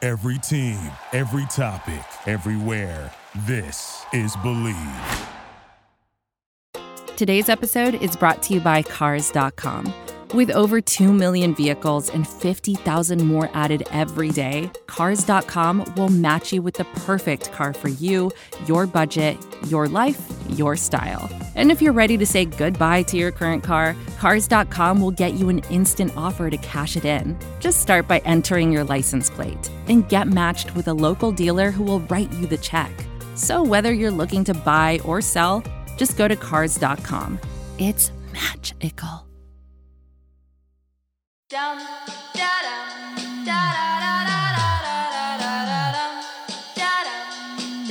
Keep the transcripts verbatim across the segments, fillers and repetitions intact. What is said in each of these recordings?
Every team, every topic, everywhere. This is Believe. Today's episode is brought to you by Cars dot com. With over two million vehicles and fifty thousand more added every day, Cars dot com will match you with the perfect car for you, your budget, your life, your style. And if you're ready to say goodbye to your current car, Cars dot com will get you an instant offer to cash it in. Just start by entering your license plate and get matched with a local dealer who will write you the check. So whether you're looking to buy or sell, just go to Cars dot com. It's magical. Dum, da-dum, da-da-da-da-da-da-da-da-dum, da-dum,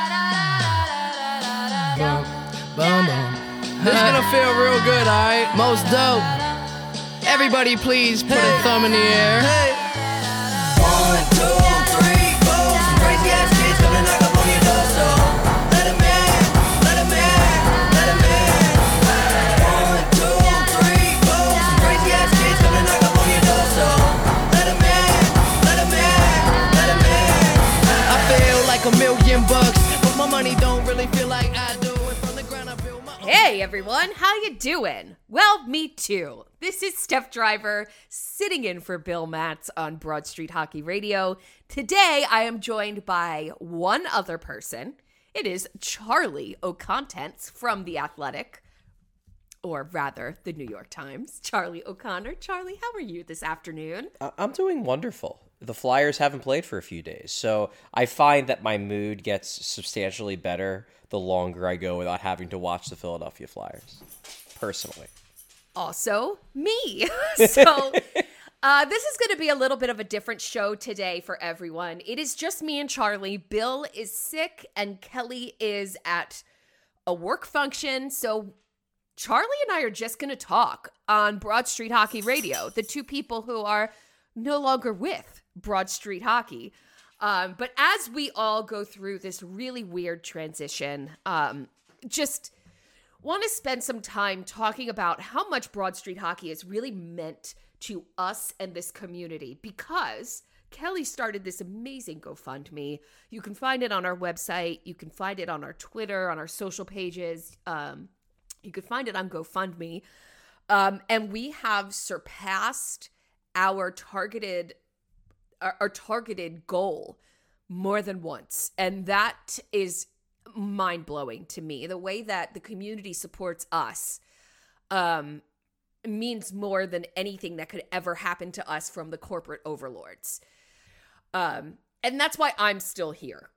da-da-da-da-da-da-da-dum, Boom, boom. This is gonna feel real good, alright? Most dope. Everybody please put a thumb in the air. One, two, three, four. Some crazy ass kids coming knock up on your door, so let 'em in, let 'em in, let 'em in. One, two, three, four. Some crazy ass kids coming knock up on your door, so let 'em in, let 'em in, let 'em in. I feel like a million bucks, but my money don't really feel like I do. And from the ground I build my own. Hey everyone, how you doing? Well, me too. This is Steph Driver sitting in for Bill Matz on Broad Street Hockey Radio. Today I am joined by one other person. It is Charlie O'Contents from The Athletic, or rather the New York Times. Charlie O'Connor. Charlie, how are you this afternoon? I- I'm doing wonderful. The Flyers haven't played for a few days, so I find that my mood gets substantially better the longer I go without having to watch the Philadelphia Flyers, personally. Also, me. So uh, this is going to be a little bit of a different show today for everyone. It is just me and Charlie. Bill is sick and Kelly is at a work function. So Charlie and I are just going to talk on Broad Street Hockey Radio, the two people who are no longer with Broad Street Hockey. Um, but as we all go through this really weird transition, um, just want to spend some time talking about how much Broad Street Hockey has really meant to us and this community, because Kelly started this amazing GoFundMe. You can find it on our website. You can find it on our Twitter, on our social pages. Um, you can find it on GoFundMe. Um, and we have surpassed our targeted our, our targeted goal more than once. And that is mind-blowing to me. The way that the community supports us um, means more than anything that could ever happen to us from the corporate overlords. Um, and that's why I'm still here.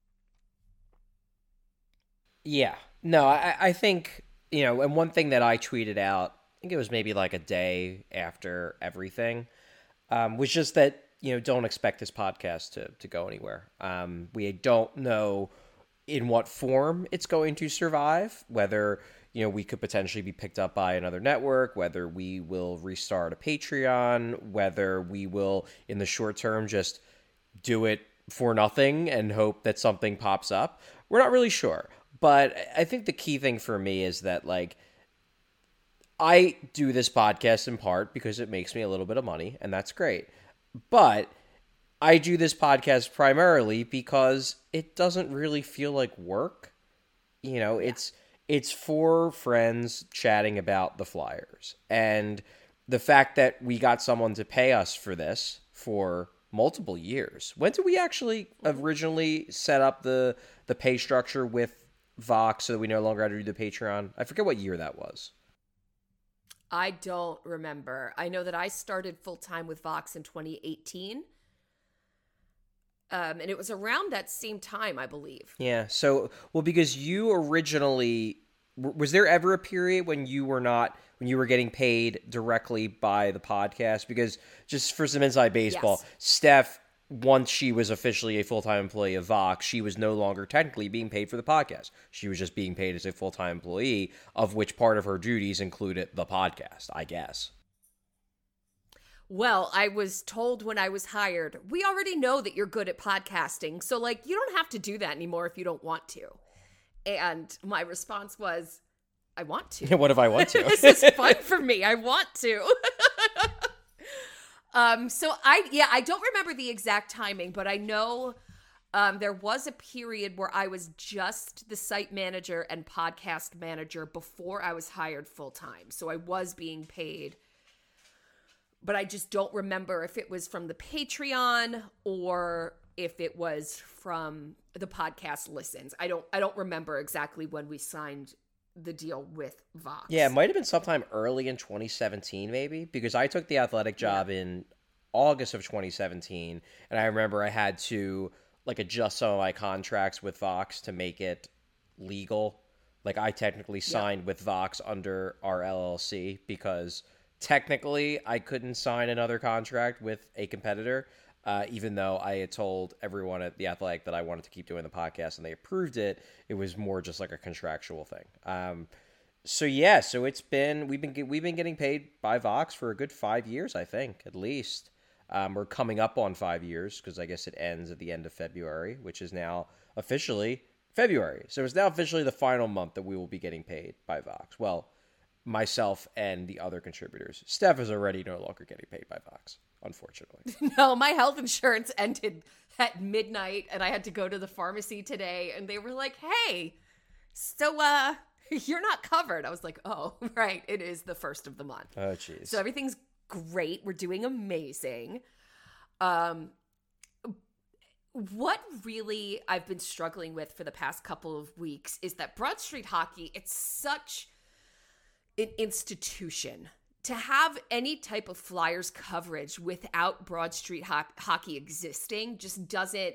Yeah. No, I, I think, you know, and one thing that I tweeted out, I think it was maybe like a day after everything, um, was just that, you know, don't expect this podcast to, to go anywhere. Um, we don't know in what form it's going to survive, whether, you know, we could potentially be picked up by another network, whether we will restart a Patreon, whether we will, in the short term, just do it for nothing and hope that something pops up. We're not really sure. But I think the key thing for me is that, like, I do this podcast in part because it makes me a little bit of money, and that's great. But I do this podcast primarily because it doesn't really feel like work. You know, it's it's for friends chatting about the Flyers. And the fact that we got someone to pay us for this for multiple years. When did we actually originally set up the the pay structure with Vox so that we no longer had to do the Patreon? I forget what year that was. I don't remember. I know that I started full-time with Vox in twenty eighteen. Um, and it was around that same time, I believe. Yeah. So, well, because you originally, was there ever a period when you were not, when you were getting paid directly by the podcast? Because just for some inside baseball, Yes. Steph, once she was officially a full-time employee of Vox, she was no longer technically being paid for the podcast. She was just being paid as a full-time employee, of which part of her duties included the podcast, I guess. Well, I was told when I was hired, we already know that you're good at podcasting. So, like, you don't have to do that anymore if you don't want to. And my response was, I want to. What if I want to? This is fun for me. I want to. Um, so I, yeah, I don't remember the exact timing, but I know um, there was a period where I was just the site manager and podcast manager before I was hired full time. So I was being paid, but I just don't remember if it was from the Patreon or if it was from the podcast listens. I don't, I don't remember exactly when we signed the deal with Vox. Yeah, it might have been sometime early in twenty seventeen, maybe, because I took the athletic job yeah. in August of twenty seventeen, and I remember I had to like adjust some of my contracts with Vox to make it legal. Like I technically signed yeah. with Vox under our L L C because technically I couldn't sign another contract with a competitor. Uh, even though I had told everyone at The Athletic that I wanted to keep doing the podcast and they approved it, it was more just like a contractual thing. Um, so yeah, so it's been we've been we've been getting paid by Vox for a good five years, I think, at least. Um, we're coming up on five years because I guess it ends at the end of February, which is now officially February. So it's now officially the final month that we will be getting paid by Vox. Well, myself and the other contributors. Steph is already no longer getting paid by Vox, unfortunately. No, my health insurance ended at midnight and I had to go to the pharmacy today and they were like, hey, so uh, you're not covered. I was like, oh, right. It is the first of the month. Oh, jeez. So everything's great. We're doing amazing. Um, what really I've been struggling with for the past couple of weeks is that Broad Street Hockey, it's such an institution. To have any type of Flyers coverage without Broad Street ho- Hockey existing just doesn't,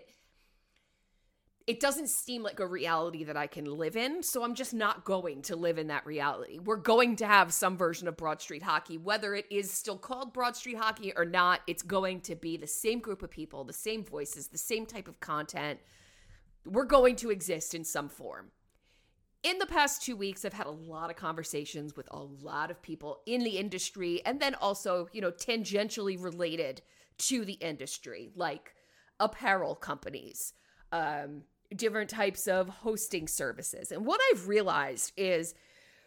it doesn't seem like a reality that I can live in. So I'm just not going to live in that reality. We're going to have some version of Broad Street Hockey, whether it is still called Broad Street Hockey or not. It's going to be the same group of people, the same voices, the same type of content. We're going to exist in some form. In the past two weeks, I've had a lot of conversations with a lot of people in the industry and then also, you know, tangentially related to the industry, like apparel companies, um, different types of hosting services. And what I've realized is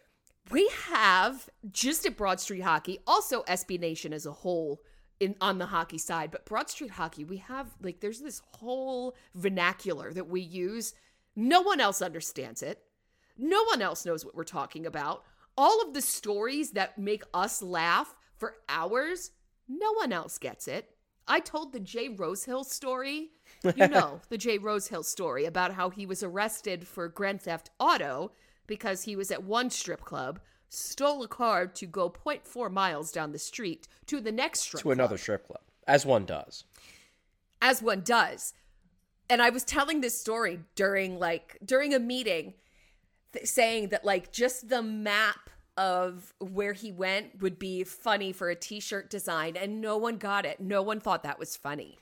we have, just at Broad Street Hockey, also S B Nation as a whole in on the hockey side, but Broad Street Hockey, we have, like, there's this whole vernacular that we use. No one else understands it. No one else knows what we're talking about. All of the stories that make us laugh for hours, no one else gets it. I told the Jay Rosehill story, you know, the Jay Rosehill story about how he was arrested for Grand Theft Auto because he was at one strip club, stole a car to go zero point four miles down the street to the next strip to club. another strip club, as one does. As one does. And I was telling this story during, like, during a meeting, saying that, like, just the map of where he went would be funny for a t-shirt design, and no one got it. No one thought that was funny.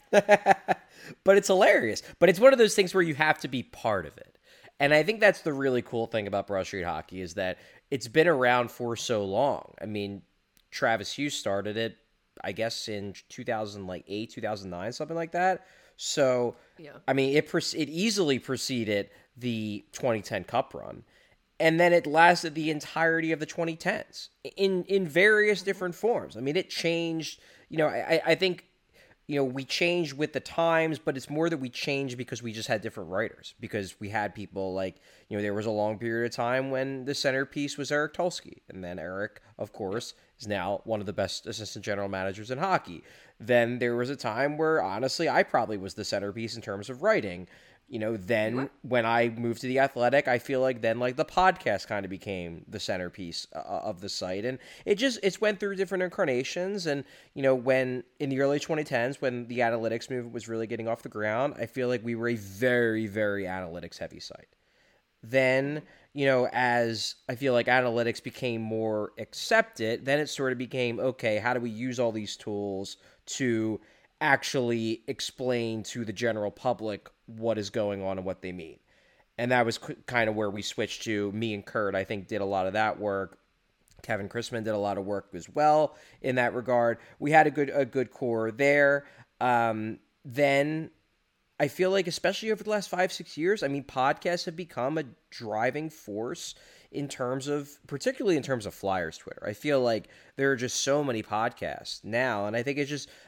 But it's hilarious. But it's one of those things where you have to be part of it. And I think that's the really cool thing about Broad Street Hockey is that it's been around for so long. I mean, Travis Hughes started it, I guess, in two thousand eight, two thousand nine, something like that. So, yeah. I mean, it it easily preceded the twenty ten Cup run. And then it lasted the entirety of the twenty tens in, in various different forms. I mean, it changed, you know, I, I think, you know, we changed with the times, but it's more that we changed because we just had different writers. Because we had people like, you know, there was a long period of time when the centerpiece was Eric Tulsky. And then Eric, of course, is now one of the best assistant general managers in hockey. Then there was a time where, honestly, I probably was the centerpiece in terms of writing. You know, then when I moved to The Athletic, I feel like then like the podcast kind of became the centerpiece uh, of the site. And it just, it's went through different incarnations. And, you know, when in the early twenty tens, when the analytics movement was really getting off the ground, I feel like we were a very, very analytics heavy site. Then, you know, as I feel like analytics became more accepted, then it sort of became, okay, how do we use all these tools to actually explain to the general public what is going on and what they mean. And that was kind of where we switched to. Me and Kurt, I think, did a lot of that work. Kevin Chrisman did a lot of work as well in that regard. We had a good a good core there. Um, then I feel like, especially over the last five, six years, I mean, podcasts have become a driving force in terms of, particularly in terms of Flyers Twitter. I feel like there are just so many podcasts now, and I think it's just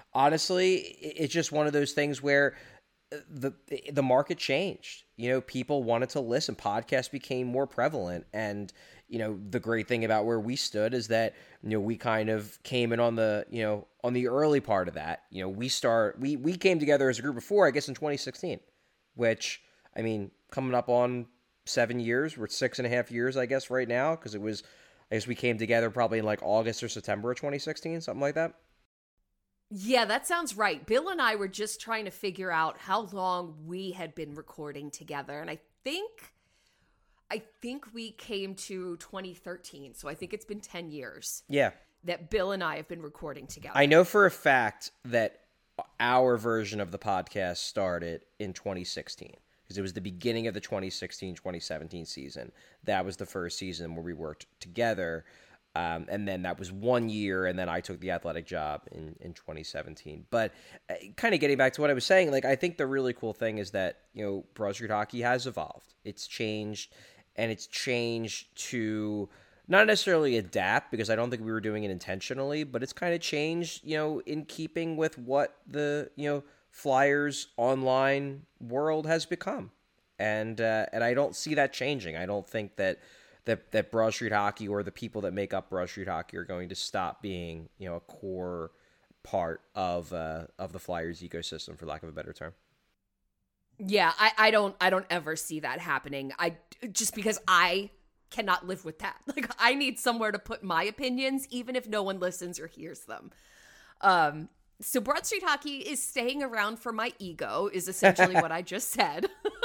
honestly, it's just one of those things where the the market changed. You know, people wanted to listen. Podcasts became more prevalent, and you know, the great thing about where we stood is that, you know, we kind of came in on the, you know, on the early part of that. You know, we start we we came together as a group before, I guess, in twenty sixteen, which, I mean, coming up on seven years. We're six and a half years, I guess, right now, because it was, I guess we came together probably in like August or September of twenty sixteen, something like that. Yeah, that sounds right. Bill and I were just trying to figure out how long we had been recording together. And I think, I think we came to twenty thirteen. So I think it's been ten years. Yeah. That Bill and I have been recording together. I know for a fact that our version of the podcast started in twenty sixteen. Because it was the beginning of the twenty sixteen twenty seventeen season. That was the first season where we worked together. Um, and then that was one year, and then I took the athletic job in, in twenty seventeen. But uh, kind of getting back to what I was saying, like, I think the really cool thing is that, you know, Broad Street Hockey has evolved. It's changed, and it's changed to not necessarily adapt, because I don't think we were doing it intentionally, but it's kind of changed, you know, in keeping with what the, you know, Flyers online world has become. And uh, and I don't see that changing. I don't think that that that Broad Street Hockey or the people that make up Broad Street Hockey are going to stop being, you know, a core part of uh, of the Flyers ecosystem, for lack of a better term. Yeah, I, I don't I don't ever see that happening. I just because I cannot live with that. Like, I need somewhere to put my opinions, even if no one listens or hears them. Um, so Broad Street Hockey is staying around for my ego, is essentially what I just said.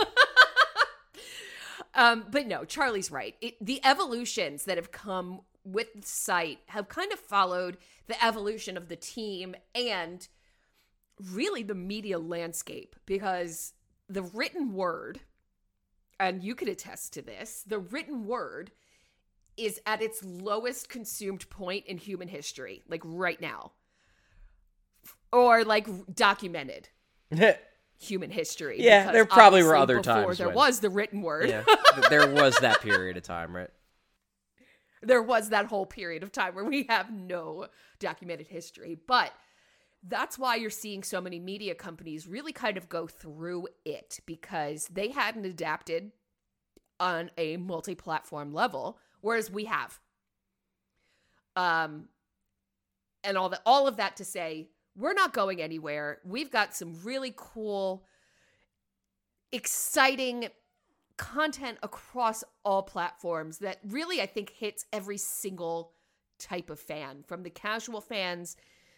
Um, but no, Charlie's right. It, the evolutions that have come with the site have kind of followed the evolution of the team and really the media landscape, because the written word, and you could attest to this, the written word is at its lowest consumed point in human history, like right now, or like documented. Human history. Yeah, there probably were other before times there when, was the written word. Yeah, there was that period of time, right? There was that whole period of time where we have no documented history. But that's why you're seeing so many media companies really kind of go through it, because they hadn't adapted on a multi-platform level, whereas we have. Um, and all that, all of that to say, we're not going anywhere. We've got some really cool, exciting content across all platforms that really, I think, hits every single type of fan, from the casual fans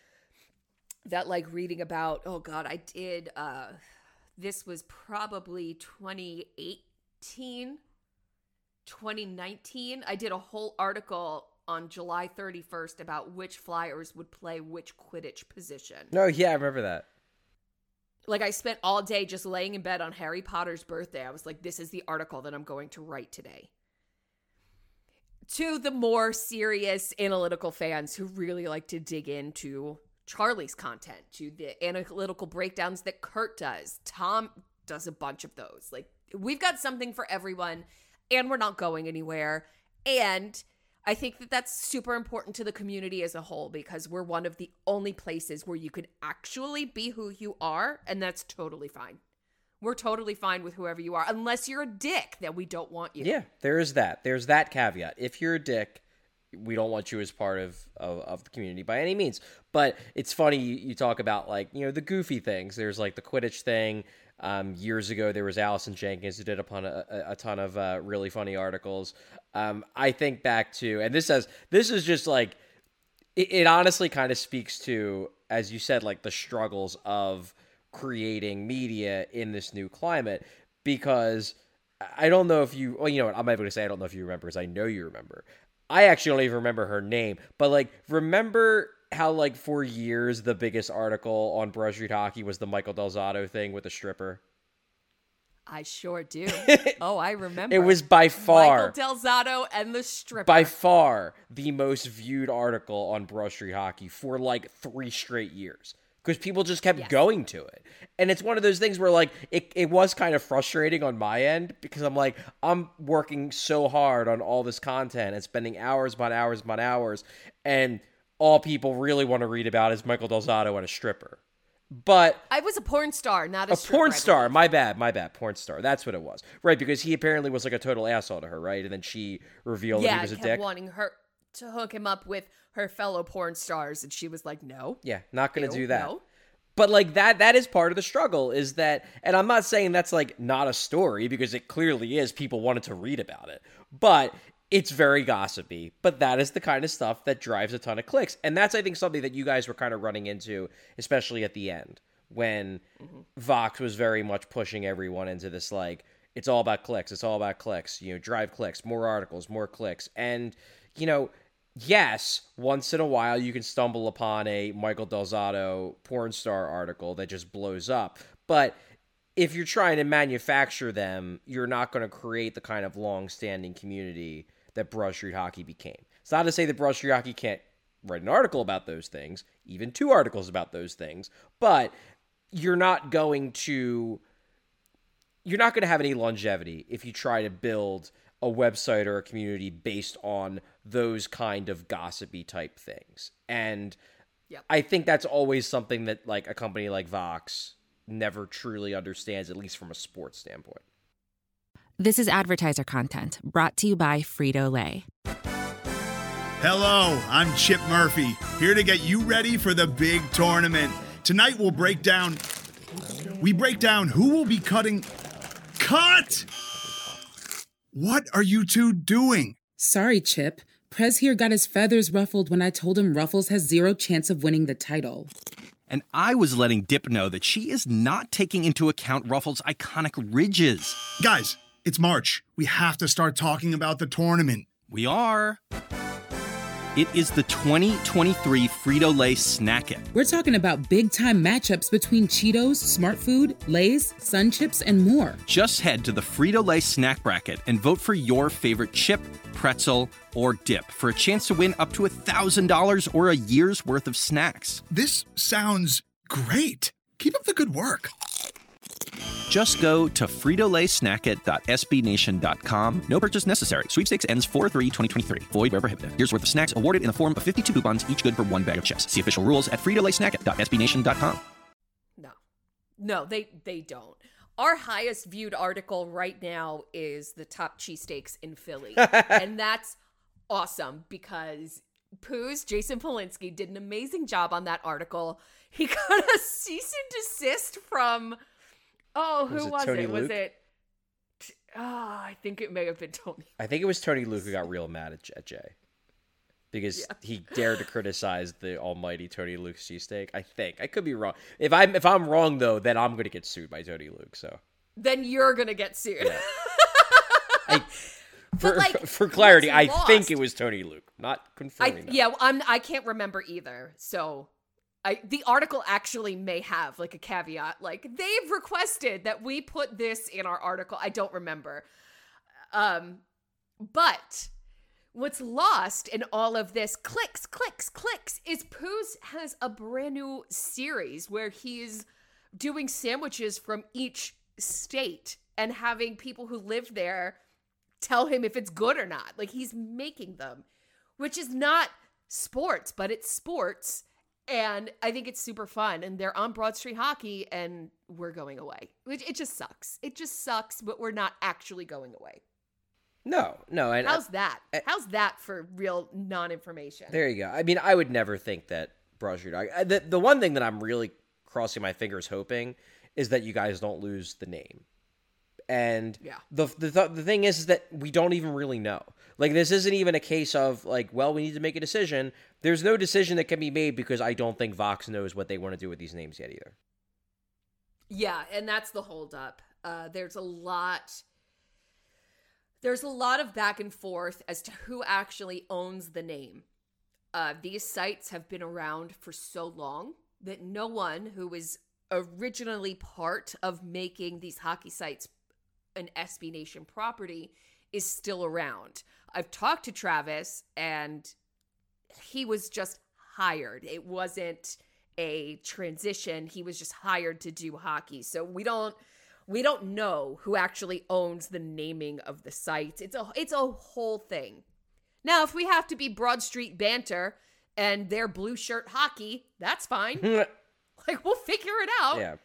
that like reading about, oh God, I did, uh, this was probably twenty eighteen, twenty nineteen. I did a whole article on July thirty-first about which Flyers would play which Quidditch position. No, yeah, I remember that. Like, I spent all day just laying in bed on Harry Potter's birthday. I was like, this is the article that I'm going to write today. To the more serious analytical fans who really like to dig into Charlie's content, to the analytical breakdowns that Kurt does. Tom does a bunch of those. Like, we've got something for everyone, and we're not going anywhere. And I think that that's super important to the community as a whole, because we're one of the only places where you could actually be who you are, and that's totally fine. We're totally fine with whoever you are, unless you're a dick, then we don't want you. Yeah, there is that. There's that caveat. If you're a dick, we don't want you as part of, of, of the community by any means. But it's funny, you, you talk about, like, you know, the goofy things. There's, like, the Quidditch thing. Um, years ago, there was Allison Jenkins who did a, a, a ton of uh, really funny articles. Um, I think back to, and this says, this is just like, it, it honestly kind of speaks to, as you said, like the struggles of creating media in this new climate, because I don't know if you, well, you know what, I'm able to say I don't know if you remember, because I know you remember. I actually don't even remember her name, but like, remember how like for years the biggest article on Broad Street Hockey was the Michael Del Zotto thing with the stripper? I sure do. Oh, I remember. It was by far Michael Del Zotto and the stripper. By far the most viewed article on Broad Street Hockey for like three straight years, because people just kept yes. going to it. And it's one of those things where like it, it was kind of frustrating on my end, because I'm like, I'm working so hard on all this content and spending hours upon hours upon hours, and all people really want to read about is Michael Del Zotto and a stripper. But I was a porn star, not a, a stripper, porn I star. believe. My bad, my bad. Porn star. That's what it was, right? Because he apparently was like a total asshole to her, right? And then she revealed that Yeah, he was a kept dick. wanting her to hook him up with her fellow porn stars, and she was like, "No, Yeah, not gonna Ew, do that. no. But like that, that is part of the struggle. Is that, and I'm not saying that's like not a story because it clearly is. People wanted to read about it, but it's very gossipy. But that is the kind of stuff that drives a ton of clicks, and that's I think something that you guys were kind of running into, especially at the end when mm-hmm. Vox was very much pushing everyone into this like it's all about clicks. It's all about clicks. You know, drive clicks, more articles, more clicks, and you know. Yes, once in a while you can stumble upon a Michael Del Zotto porn star article that just blows up. But if you're trying to manufacture them, you're not going to create the kind of long-standing community that Broad Street Hockey became. It's not to say that Broad Street Hockey can't write an article about those things, even two articles about those things, but you're not going to you're not going to have any longevity if you try to build a website or a community based on those kind of gossipy type things. And yep. I think that's always something that like a company like Vox never truly understands, at least from a sports standpoint. This is advertiser content brought to you by Frito-Lay. Hello, I'm Chip Murphy, here to get you ready for the big tournament. Tonight we'll break down, we break down who will be cutting, cut! What are you two doing? Sorry, Chip. Prez here got his feathers ruffled when I told him Ruffles has zero chance of winning the title. And I was letting Dip know that she is not taking into account Ruffles' iconic ridges. Guys, it's March. We have to start talking about the tournament. We are. It is the twenty twenty-three Frito-Lay Snack It. We're talking about big-time matchups between Cheetos, Smart Food, Lay's, Sun Chips, and more. Just head to the Frito-Lay Snack Bracket and vote for your favorite chip, pretzel, or dip for a chance to win up to one thousand dollars or a year's worth of snacks. This sounds great. Keep up the good work. Just go to frito lay snack it dot s b nation dot com. No purchase necessary. Sweepstakes ends four three twenty twenty-three. Void where prohibited. Here's worth of snacks awarded in the form of fifty-two coupons, each good for one bag of chips. See official rules at frito lay snack it dot s b nation dot com. No. No, they, they don't. Our highest viewed article right now is the top cheesesteaks in Philly. And that's awesome because Poos, Jason Polinsky, did an amazing job on that article. He got a cease and desist from... Oh, who was it? Was Tony it? Luke? Was it? Oh, I think it may have been Tony. I think it was Tony Luke who got real mad at, at Jay because yeah. he dared to criticize the almighty Tony Luke cheesesteak. I think I could be wrong. If I'm if I'm wrong though, then I'm gonna get sued by Tony Luke. So then you're gonna get sued. Yeah. I, for like, for clarity, I lost, think it was Tony Luke, not confirming. I, yeah, I'm. I can't remember either. So. I, the article actually may have like a caveat, like they've requested that we put this in our article. I don't remember. Um, but what's lost in all of this clicks, clicks, clicks is Poos has a brand new series where he's doing sandwiches from each state and having people who live there tell him if it's good or not. Like he's making them, which is not sports, but it's sports. And I think it's super fun. And they're on Broad Street Hockey, and we're going away. It, it just sucks. It just sucks, but we're not actually going away. No, no. And How's I, that? I, How's that for real non-information? There you go. I mean, I would never think that Broad Street Hockey. The, the one thing that I'm really crossing my fingers hoping is that you guys don't lose the name. And yeah. the, the the thing is, is that we don't even really know. Like, this isn't even a case of, like, well, we need to make a decision. There's no decision that can be made because I don't think Vox knows what they want to do with these names yet either. Yeah, and that's the holdup. Uh, there's a lot... There's a lot of back and forth as to who actually owns the name. Uh, these sites have been around for so long that no one who was originally part of making these hockey sites an S B Nation property is still around. I've talked to Travis, and he was just hired. It wasn't a transition. He was just hired to do hockey. So we don't we don't know who actually owns the naming of the sites. It's a it's a whole thing. Now, if we have to be Broad Street banter and they're blue shirt hockey, that's fine. Like, we'll figure it out. Yeah.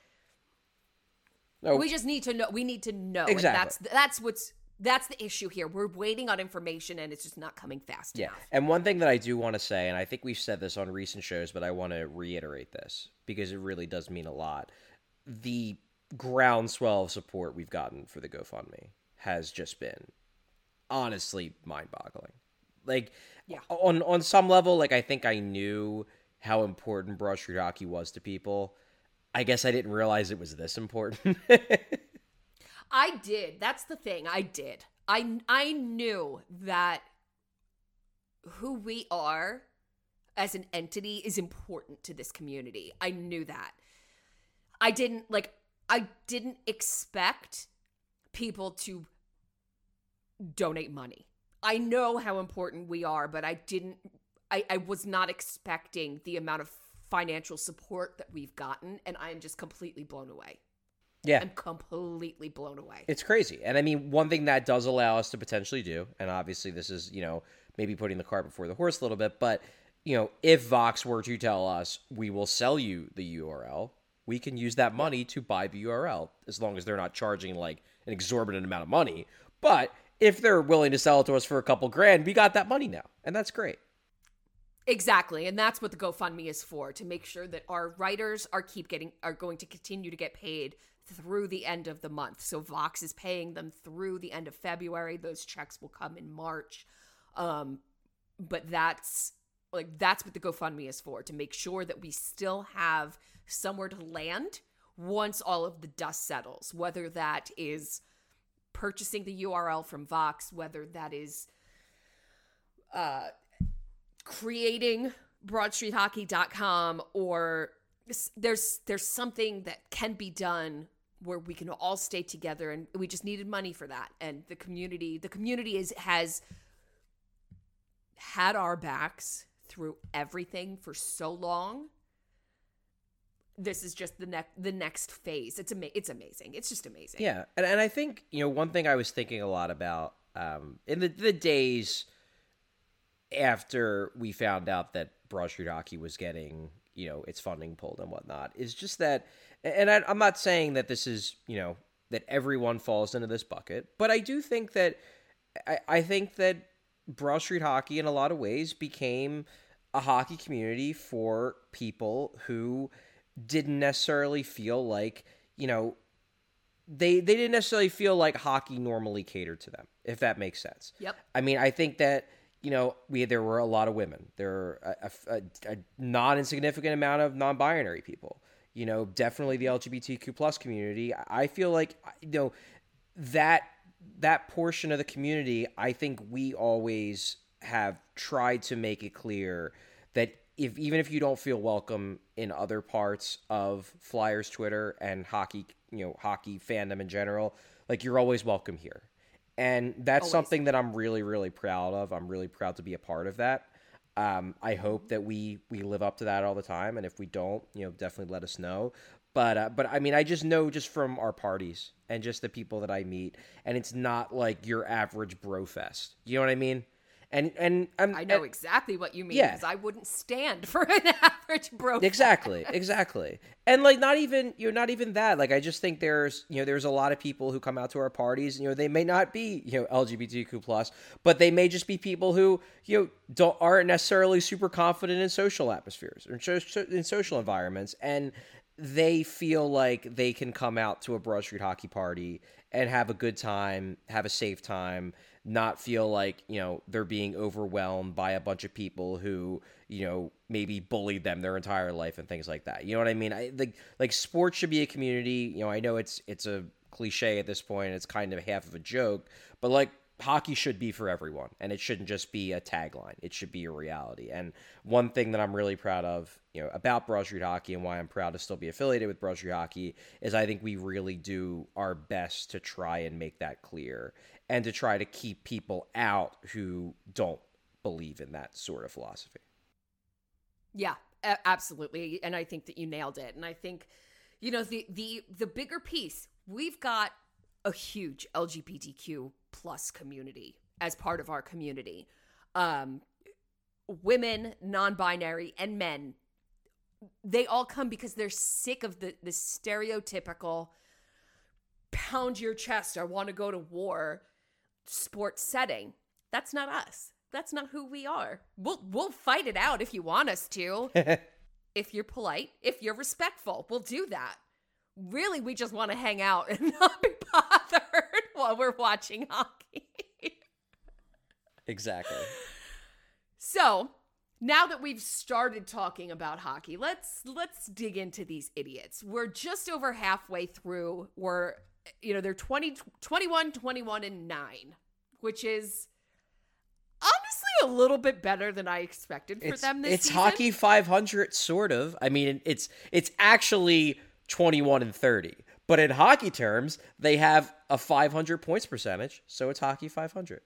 No. We just need to know. We need to know. Exactly. And that's that's what's that's the issue here. We're waiting on information, and it's just not coming fast Yeah. enough. And one thing that I do want to say, and I think we've said this on recent shows, but I want to reiterate this because it really does mean a lot. The groundswell of support we've gotten for the GoFundMe has just been honestly mind-boggling. Like, Yeah. on on some level, like, I think I knew how important Broad Street Hockey was to people. I guess I didn't realize it was this important. I did. That's the thing. I did. I I knew that who we are as an entity is important to this community. I knew that. I didn't like I didn't expect people to donate money. I know how important we are, but I didn't I, I was not expecting the amount of financial support that we've gotten, and I am just completely blown away. Yeah. I'm completely blown away. It's crazy. And I mean, one thing that does allow us to potentially do, and obviously this is, you know, maybe putting the cart before the horse a little bit, but, you know, if Vox were to tell us, we will sell you the U R L, we can use that money to buy the U R L, as long as they're not charging like an exorbitant amount of money. But if they're willing to sell it to us for a couple grand, we got that money now. And that's great. Exactly. And that's what the GoFundMe is for, to make sure that our writers are keep getting are going to continue to get paid through the end of the month. So Vox is paying them through the end of February. Those checks will come in March. Um, but that's like that's what the GoFundMe is for, to make sure that we still have somewhere to land once all of the dust settles, whether that is purchasing the U R L from Vox, whether that is uh, creating broad street hockey dot com, or there's there's something that can be done where we can all stay together, and we just needed money for that. And the community, the community is has had our backs through everything for so long. This is just the next the next phase. It's ama- it's amazing. It's just amazing. Yeah, and and I think, you know, one thing I was thinking a lot about um, in the the days after we found out that Broad Street Hockey was getting, you know, its funding pulled and whatnot, is just that, and I, I'm not saying that this is, you know, that everyone falls into this bucket, but I do think that I, I think that Broad Street Hockey in a lot of ways became a hockey community for people who didn't necessarily feel like, you know, they they didn't necessarily feel like hockey normally catered to them, if that makes sense. Yep. I mean, I think that, you know, we there were a lot of women. There were a, a, a not insignificant amount of non-binary people. You know, definitely the L G B T Q plus community. I feel like, you know, that that portion of the community, I think we always have tried to make it clear that if even if you don't feel welcome in other parts of Flyers Twitter and hockey, you know, hockey fandom in general, like, you're always welcome here. And that's Always. something that I'm really, really proud of. I'm really proud to be a part of that. Um, I hope that we we live up to that all the time. And if we don't, you know, definitely let us know. But uh, but I mean, I just know just from our parties and just the people that I meet, and it's not like your average bro fest. You know what I mean? And and I'm, I know and, exactly what you mean, yeah. because I wouldn't stand for an average bro. Exactly, exactly. And like, not even, you know, not even that. Like, I just think there's, you know, there's a lot of people who come out to our parties, you know, they may not be, you know, L G B T Q plus, but they may just be people who, you know, don't, aren't necessarily super confident in social atmospheres or in social environments. And they feel like they can come out to a Broad Street Hockey party and have a good time, have a safe time, not feel like, you know, they're being overwhelmed by a bunch of people who, you know, maybe bullied them their entire life and things like that. You know what I mean? I like like sports should be a community. You know, I know it's it's a cliche at this point. It's kind of half of a joke, but like, hockey should be for everyone, and it shouldn't just be a tagline. It should be a reality. And one thing that I'm really proud of, you know, about Broad Street Hockey, and why I'm proud to still be affiliated with Broad Street Hockey, is I think we really do our best to try and make that clear and to try to keep people out who don't believe in that sort of philosophy. Yeah, a- absolutely. And I think that you nailed it. And I think, you know, the the the bigger piece, we've got a huge L G B T Q plus community as part of our community. Um, women, non-binary, and men, they all come because they're sick of the, the stereotypical pound your chest, I want to go to war sports setting. That's not us. That's not who we are. We'll we'll fight it out if you want us to. If you're polite, if you're respectful, we'll do that. Really, we just want to hang out and not be bothered while we're watching hockey. Exactly. So, now that we've started talking about hockey, let's let's dig into these idiots. We're just over halfway through. We're, you know, they're twenty, twenty-one, twenty-one, and nine, which is honestly a little bit better than I expected for it's, them this it's season. It's hockey five hundred, sort of. I mean, it's it's actually twenty-one and thirty. But in hockey terms, they have a five hundred points percentage, so it's hockey five hundred.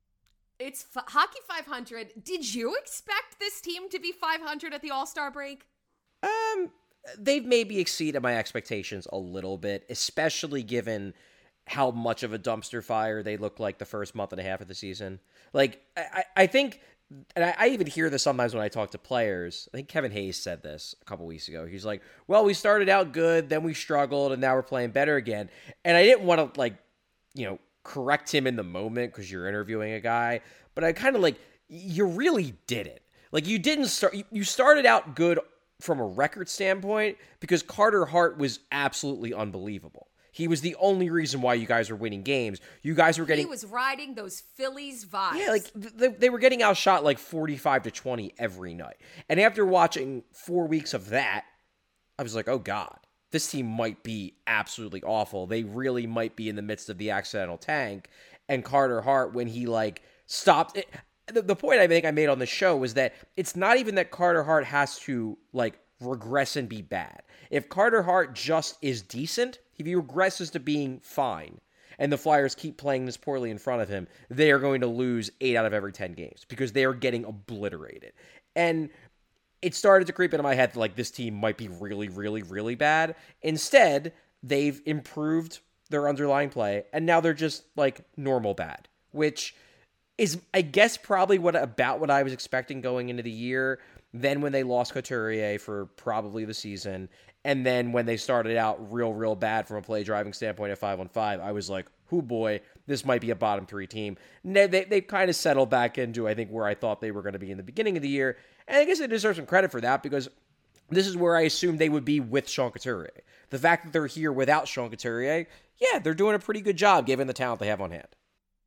It's f- hockey five hundred. Did you expect this team to be five hundred at the All-Star break? Um, they've maybe exceeded my expectations a little bit, especially given how much of a dumpster fire they looked like the first month and a half of the season. Like, I, I think, and I, I even hear this sometimes when I talk to players. I think Kevin Hayes said this a couple weeks ago. He's like, well, we started out good, then we struggled, and now we're playing better again. And I didn't want to, like, you know, correct him in the moment because you're interviewing a guy, but I kind of like, you really did it. Like, you didn't start, you, you started out good from a record standpoint because Carter Hart was absolutely unbelievable. He was the only reason why you guys were winning games. You guys were getting... He was riding those Phillies vibes. Yeah, like, they, they were getting outshot like forty-five to twenty every night. And after watching four weeks of that, I was like, oh God, this team might be absolutely awful. They really might be in the midst of the accidental tank. And Carter Hart, when he, like, stopped... It, the, the point I think I made on the show was that it's not even that Carter Hart has to, like, regress and be bad. If Carter Hart just is decent... If he regresses to being fine and the Flyers keep playing this poorly in front of him, they are going to lose eight out of every ten games because they are getting obliterated. And it started to creep into my head that, like, this team might be really, really, really bad. Instead, they've improved their underlying play, and now they're just, like, normal bad, which is, I guess, probably what about what I was expecting going into the year. Then when they lost Couturier for probably the season, and then when they started out real, real bad from a play driving standpoint at five on five, I was like, "Hoo boy, this might be a bottom three team." And they, they, they've kind of settled back into, I think, where I thought they were going to be in the beginning of the year. And I guess they deserve some credit for that because this is where I assumed they would be with Sean Couturier. The fact that they're here without Sean Couturier, yeah, they're doing a pretty good job given the talent they have on hand.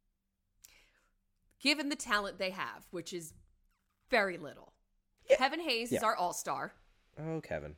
Given the talent they have, which is very little. Yeah. Kevin Hayes Yeah. is our all-star. Oh, Kevin.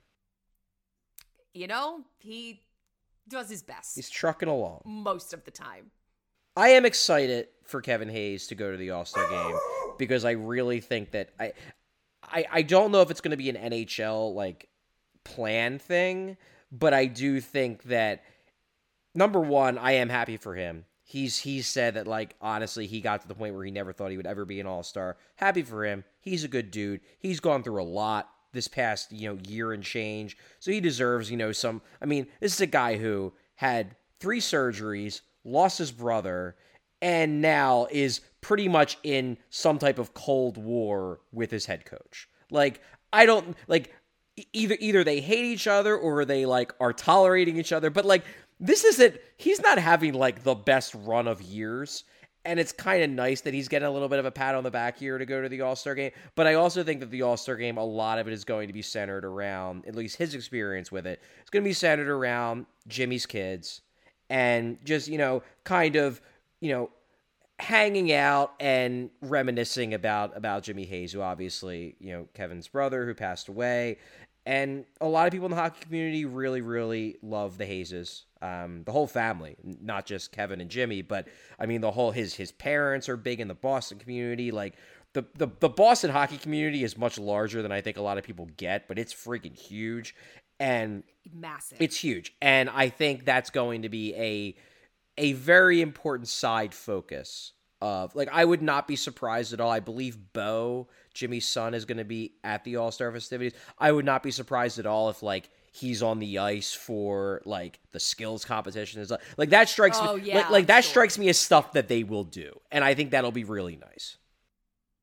You know, he does his best. He's trucking along. Most of the time. I am excited for Kevin Hayes to go to the All-Star game because I really think that I I, I don't know if it's going to be an N H L like plan thing, but I do think that number one, I am happy for him. He's he's said that, like, honestly, he got to the point where he never thought he would ever be an all-star. Happy for him. He's a good dude. He's gone through a lot this past, you know, year and change. So he deserves, you know, some... I mean, this is a guy who had three surgeries, lost his brother, and now is pretty much in some type of Cold War with his head coach. Like, I don't... Like, either either they hate each other or they, like, are tolerating each other. But, like... This isn't, he's not having, like, the best run of years, and it's kind of nice that he's getting a little bit of a pat on the back here to go to the All-Star game, but I also think that the All-Star game, a lot of it is going to be centered around, at least his experience with it, it's going to be centered around Jimmy's kids, and just, you know, kind of, you know, hanging out and reminiscing about, about Jimmy Hayes, who obviously, you know, Kevin's brother who passed away, and a lot of people in the hockey community really, really love the Hayeses. Um, the whole family, not just Kevin and Jimmy, but I mean the whole his his parents are big in the Boston community. Like the, the the Boston hockey community is much larger than I think a lot of people get, but it's freaking huge and massive. It's huge, and I think that's going to be a a very important side focus of, like, I would not be surprised at all. I believe Bo, Jimmy's son, is going to be at the All-Star festivities. I would not be surprised at all if, like, he's on the ice for, like, the skills competition. Like, that strikes oh, me. Yeah, like, like that sure. strikes me as stuff that they will do, and I think that'll be really nice.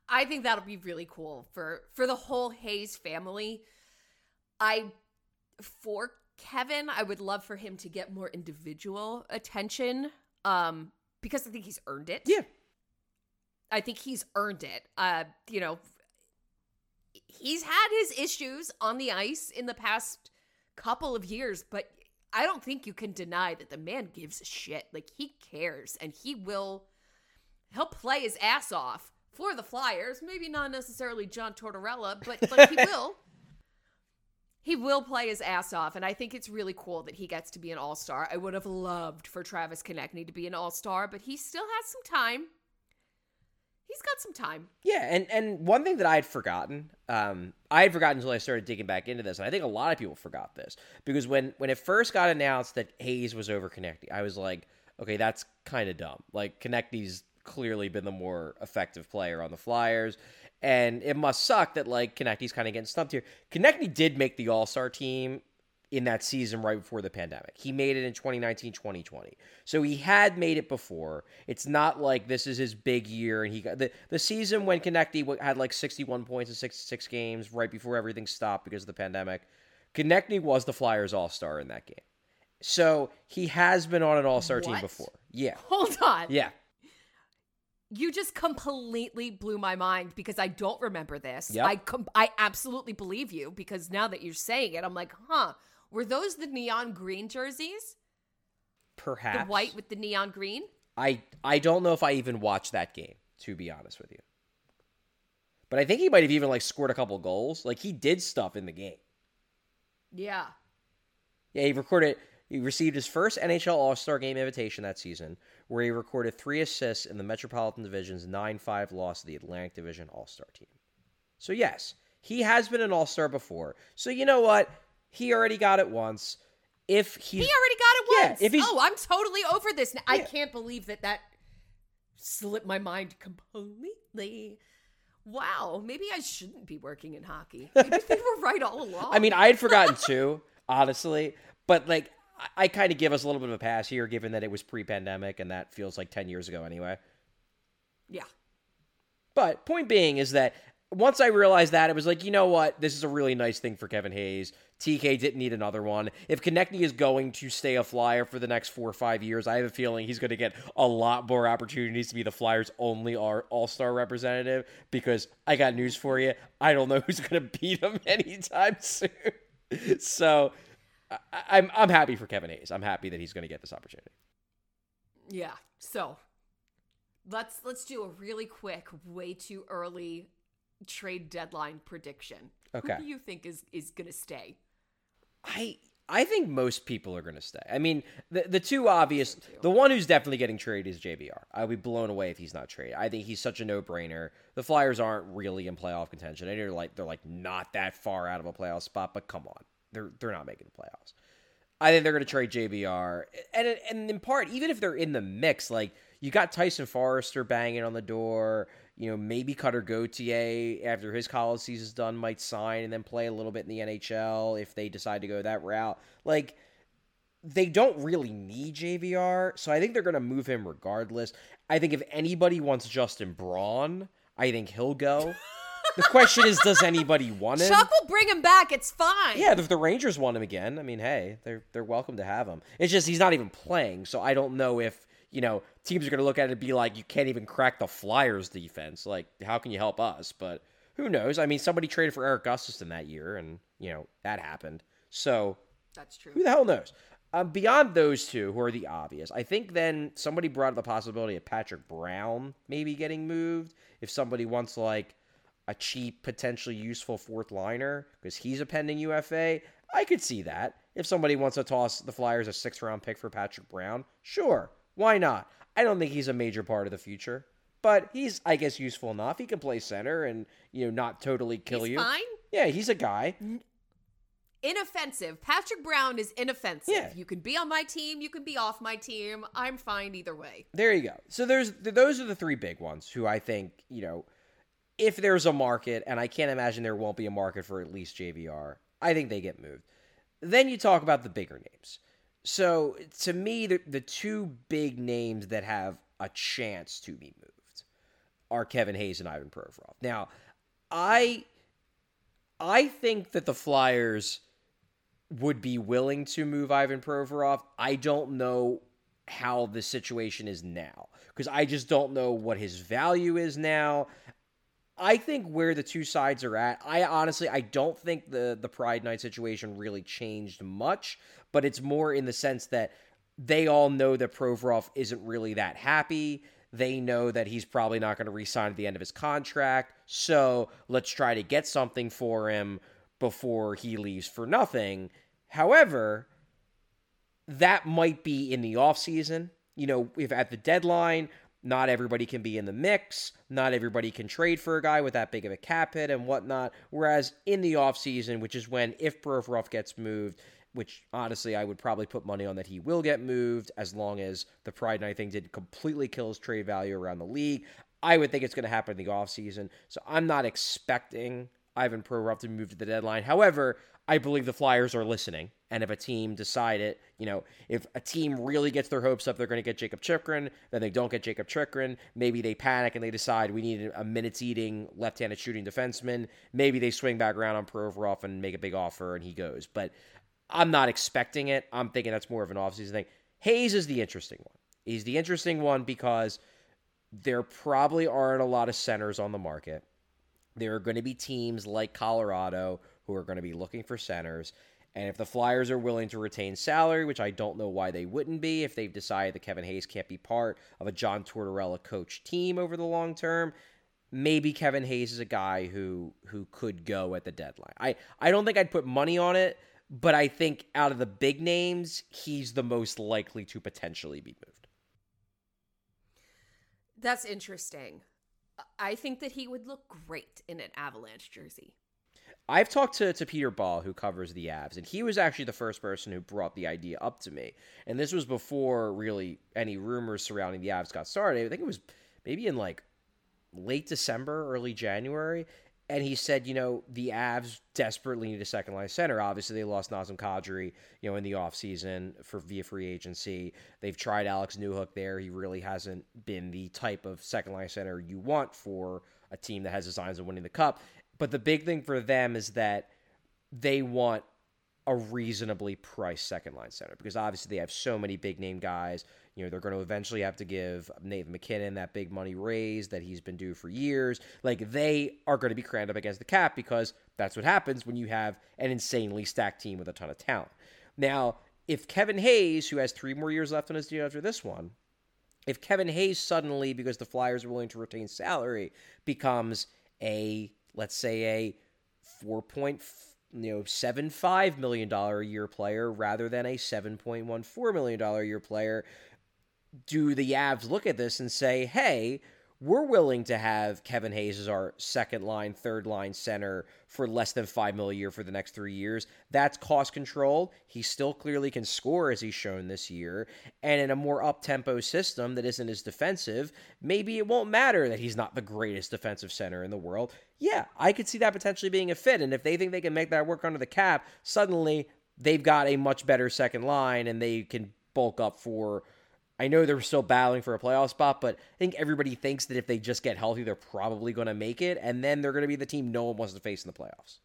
I think that'll be really cool for for the whole Hayes family. I for Kevin, I would love for him to get more individual attention, um, because I think he's earned it. Yeah, I think he's earned it. Uh, you know, he's had his issues on the ice in the past couple of years, but I don't think you can deny that the man gives a shit. Like, he cares, and he will, he'll play his ass off for the Flyers. Maybe not necessarily John Tortorella, but like he will. He will play his ass off, and I think it's really cool that he gets to be an all-star. I would have loved for Travis Konechny to be an all-star, but he still has some time. He's got some time. Yeah, and, and one thing that I had forgotten, um, I had forgotten until I started digging back into this, and I think a lot of people forgot this, because when, when it first got announced that Hayes was over Konechny, I was like, okay, that's kind of dumb. Like, Konechny's clearly been the more effective player on the Flyers, and it must suck that, like, Konechny's kind of getting stumped here. Konechny did make the All-Star team in that season right before the pandemic. He made it in twenty nineteen twenty twenty. So he had made it before. It's not like this is his big year. And he got the, the season when Konechny had like sixty-one points in sixty-six games right before everything stopped because of the pandemic. Konechny was the Flyers All-Star in that game. So he has been on an All-Star team What? before. Yeah. Hold on. Yeah. You just completely blew my mind because I don't remember this. Yep. I com- I absolutely believe you because now that you're saying it, I'm like, huh, were those the neon green jerseys? Perhaps. The white with the neon green? I, I don't know if I even watched that game, to be honest with you. But I think he might have even like scored a couple goals. Like, he did stuff in the game. Yeah. Yeah, he recorded... He received his first N H L All-Star Game invitation that season, where he recorded three assists in the Metropolitan Division's nine five loss to the Atlantic Division All-Star team. So yes, he has been an All-Star before. So you know what? He already got it once. If he's, He already got it Yeah, once. if he's- oh, I'm totally over this now. I Yeah. can't believe that that slipped my mind completely. Wow, maybe I shouldn't be working in hockey. Maybe they were right all along. I mean, I had forgotten too, honestly. But like, I, I kind of give us a little bit of a pass here, given that it was pre-pandemic, and that feels like ten years ago anyway. Yeah. But point being is that once I realized that, it was like, you know what? This is a really nice thing for Kevin Hayes. T K didn't need another one. If Konechny is going to stay a Flyer for the next four or five years, I have a feeling he's going to get a lot more opportunities to be the Flyers' only All-Star representative, because I got news for you. I don't know who's going to beat him anytime soon. So I, I'm I'm happy for Kevin Hayes. I'm happy that he's going to get this opportunity. Yeah. So let's let's do a really quick, way too early trade deadline prediction. Okay. Who do you think is is gonna stay? I I think most people are going to stay. I mean, the the two obvious, the one who's definitely getting traded is J V R. I'll be blown away if he's not traded. I think he's such a no-brainer. The Flyers aren't really in playoff contention. They're like they're like not that far out of a playoff spot, but come on, they're they're not making the playoffs. I think they're going to trade J V R, and and in part, even if they're in the mix, like you got Tyson Forrester banging on the door. You know, maybe Cutter Gauthier, after his college season's done, might sign and then play a little bit in the N H L if they decide to go that route. Like, they don't really need J V R, so I think they're going to move him regardless. I think if anybody wants Justin Braun, I think he'll go. The question is, does anybody want him? Chuck will bring him back. It's fine. Yeah, if the Rangers want him again, I mean, hey, they're they're welcome to have him. It's just he's not even playing, so I don't know if, you know, teams are going to look at it and be like, you can't even crack the Flyers defense. Like, how can you help us? But who knows? I mean, somebody traded for Eric Gustafson that year, and, you know, that happened. So That's true. who the hell knows? Um, beyond those two, who are the obvious, I think then somebody brought up the possibility of Patrick Brown maybe getting moved. If somebody wants, like, a cheap, potentially useful fourth liner, because he's a pending U F A, I could see that. If somebody wants to toss the Flyers a sixth-round pick for Patrick Brown, sure. Why not? I don't think he's a major part of the future, but he's, I guess, useful enough. He can play center and, you know, not totally kill He's you. fine. Yeah, he's a guy. Inoffensive. Patrick Brown is inoffensive. Yeah. You can be on my team. You can be off my team. I'm fine either way. There you go. So there's those are the three big ones who I think, you know, if there's a market, and I can't imagine there won't be a market for at least J V R, I think they get moved. Then you talk about the bigger names. So, to me, the, the two big names that have a chance to be moved are Kevin Hayes and Ivan Provorov. Now, I I think that the Flyers would be willing to move Ivan Provorov. I don't know how the situation is now because I just don't know what his value is now. I think where the two sides are at, I honestly, I don't think the, the Pride Night situation really changed much, but it's more in the sense that they all know that Provorov isn't really that happy. They know that he's probably not going to re-sign at the end of his contract, so let's try to get something for him before he leaves for nothing. However, that might be in the offseason. You know, if at the deadline, not everybody can be in the mix. Not everybody can trade for a guy with that big of a cap hit and whatnot. Whereas in the offseason, which is when, if Provorov gets moved, which honestly I would probably put money on that he will get moved as long as the Pride Night thing didn't completely kill his trade value around the league. I would think it's going to happen in the offseason. So I'm not expecting Ivan Provorov to move to the deadline. However, I believe the Flyers are listening. And if a team decided, you know, if a team really gets their hopes up, they're going to get Jacob Chychrun, then they don't get Jacob Chychrun. Maybe they panic and they decide we need a minutes-eating, left-handed shooting defenseman. Maybe they swing back around on Provorov and make a big offer and he goes. But I'm not expecting it. I'm thinking that's more of an offseason thing. Hayes is the interesting one. He's the interesting one because there probably aren't a lot of centers on the market. There are going to be teams like Colorado who are going to be looking for centers. And if the Flyers are willing to retain salary, which I don't know why they wouldn't be if they've decided that Kevin Hayes can't be part of a John Tortorella coach team over the long term, maybe Kevin Hayes is a guy who who could go at the deadline. I, I don't think I'd put money on it, but I think out of the big names, he's the most likely to potentially be moved. That's interesting. I think that he would look great in an Avalanche jersey. I've talked to, to Peter Ball, who covers the Avs, and he was actually the first person who brought the idea up to me. And this was before really any rumors surrounding the Avs got started. I think it was maybe in like late December, early January. And he said, you know, the Avs desperately need a second line center. Obviously, they lost Nazem Kadri, you know, in the offseason for via free agency. They've tried Alex Newhook there. He really hasn't been the type of second line center you want for a team that has designs of winning the cup. But the big thing for them is that they want a reasonably priced second line center because obviously they have so many big name guys. You know, they're going to eventually have to give Nathan McKinnon that big money raise that he's been due for years. Like, they are going to be crammed up against the cap because that's what happens when you have an insanely stacked team with a ton of talent. Now, if Kevin Hayes, who has three more years left on his deal after this one, if Kevin Hayes suddenly, because the Flyers are willing to retain salary, becomes a, let's say, a four point seven five million dollars a year player rather than a seven point one four million dollars a year player, do the Avs look at this and say, hey, we're willing to have Kevin Hayes as our second line, third line center for less than five million dollars a year for the next three years. That's cost control. He still clearly can score as he's shown this year. And in a more up-tempo system that isn't as defensive, maybe it won't matter that he's not the greatest defensive center in the world. Yeah, I could see that potentially being a fit. And if they think they can make that work under the cap, suddenly they've got a much better second line and they can bulk up for, I know they're still battling for a playoff spot, but I think everybody thinks that if they just get healthy, they're probably going to make it, and then they're going to be the team no one wants to face in the playoffs.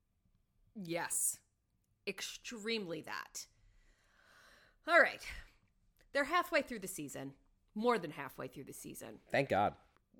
Yes. Extremely that. All right. They're halfway through the season. More than halfway through the season. Thank God.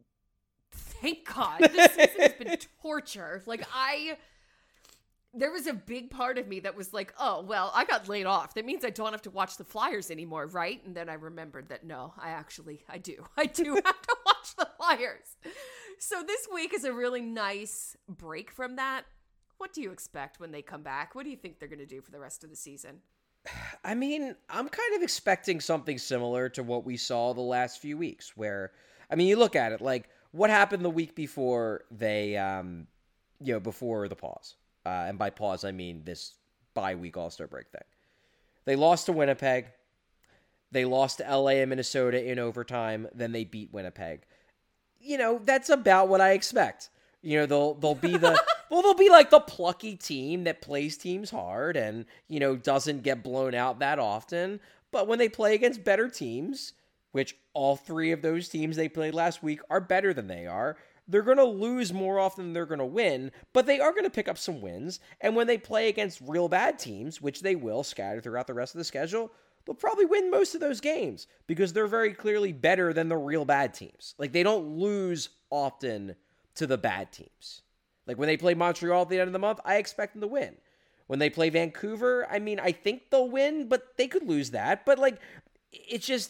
Thank God. This season has been torture. Like, I... There was a big part of me that was like, oh, well, I got laid off. That means I don't have to watch the Flyers anymore, right? And then I remembered that, no, I actually, I do. I do have to watch the Flyers. So this week is a really nice break from that. What do you expect when they come back? What do you think they're going to do for the rest of the season? I mean, I'm kind of expecting something similar to what we saw the last few weeks where, I mean, you look at it, like, what happened the week before they, um, you know, before the pause? Uh, and by pause, I mean this bye-week All-Star break thing. They lost to Winnipeg. They lost to L A and Minnesota in overtime. Then they beat Winnipeg. You know, that's about what I expect. You know, they'll they'll be the well, they'll be like the plucky team that plays teams hard and, you know, doesn't get blown out that often. But when they play against better teams which all three of those teams they played last week are better than they are. They're going to lose more often than they're going to win, but they are going to pick up some wins. And when they play against real bad teams, which they will scatter throughout the rest of the schedule, they'll probably win most of those games because they're very clearly better than the real bad teams. Like, they don't lose often to the bad teams. Like, when they play Montreal at the end of the month, I expect them to win. When they play Vancouver, I mean, I think they'll win, but they could lose that. But, like, it's just,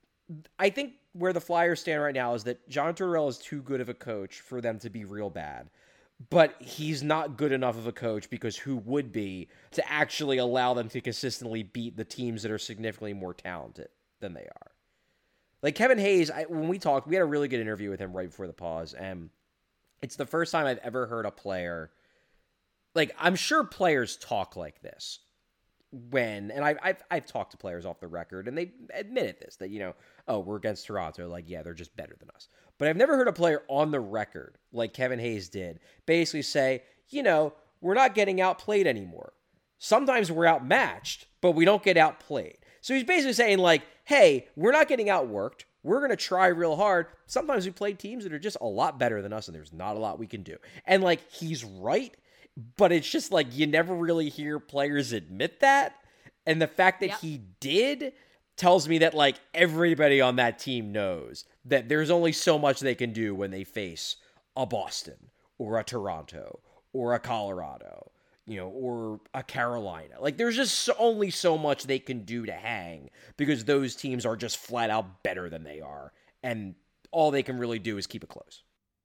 I think where the Flyers stand right now is that John Tortorella is too good of a coach for them to be real bad. But he's not good enough of a coach, because who would be, to actually allow them to consistently beat the teams that are significantly more talented than they are. Like Kevin Hayes, I, when we talked, we had a really good interview with him right before the pause, and it's the first time I've ever heard a player, like, I'm sure players talk like this when, and I, I've I've talked to players off the record, and they admitted this, that, you know, oh, we're against Toronto, like, yeah, they're just better than us. But I've never heard a player on the record, like Kevin Hayes did, basically say, you know, we're not getting outplayed anymore. Sometimes we're outmatched, but we don't get outplayed. So he's basically saying, like, hey, we're not getting outworked. We're going to try real hard. Sometimes we play teams that are just a lot better than us, and there's not a lot we can do. And, like, he's right, but it's just, like, you never really hear players admit that. And the fact that yep. he did tells me that, like, everybody on that team knows that there's only so much they can do when they face a Boston or a Toronto or a Colorado, you know, or a Carolina. Like, there's just so, only so much they can do to hang, because those teams are just flat out better than they are. And all they can really do is keep it close.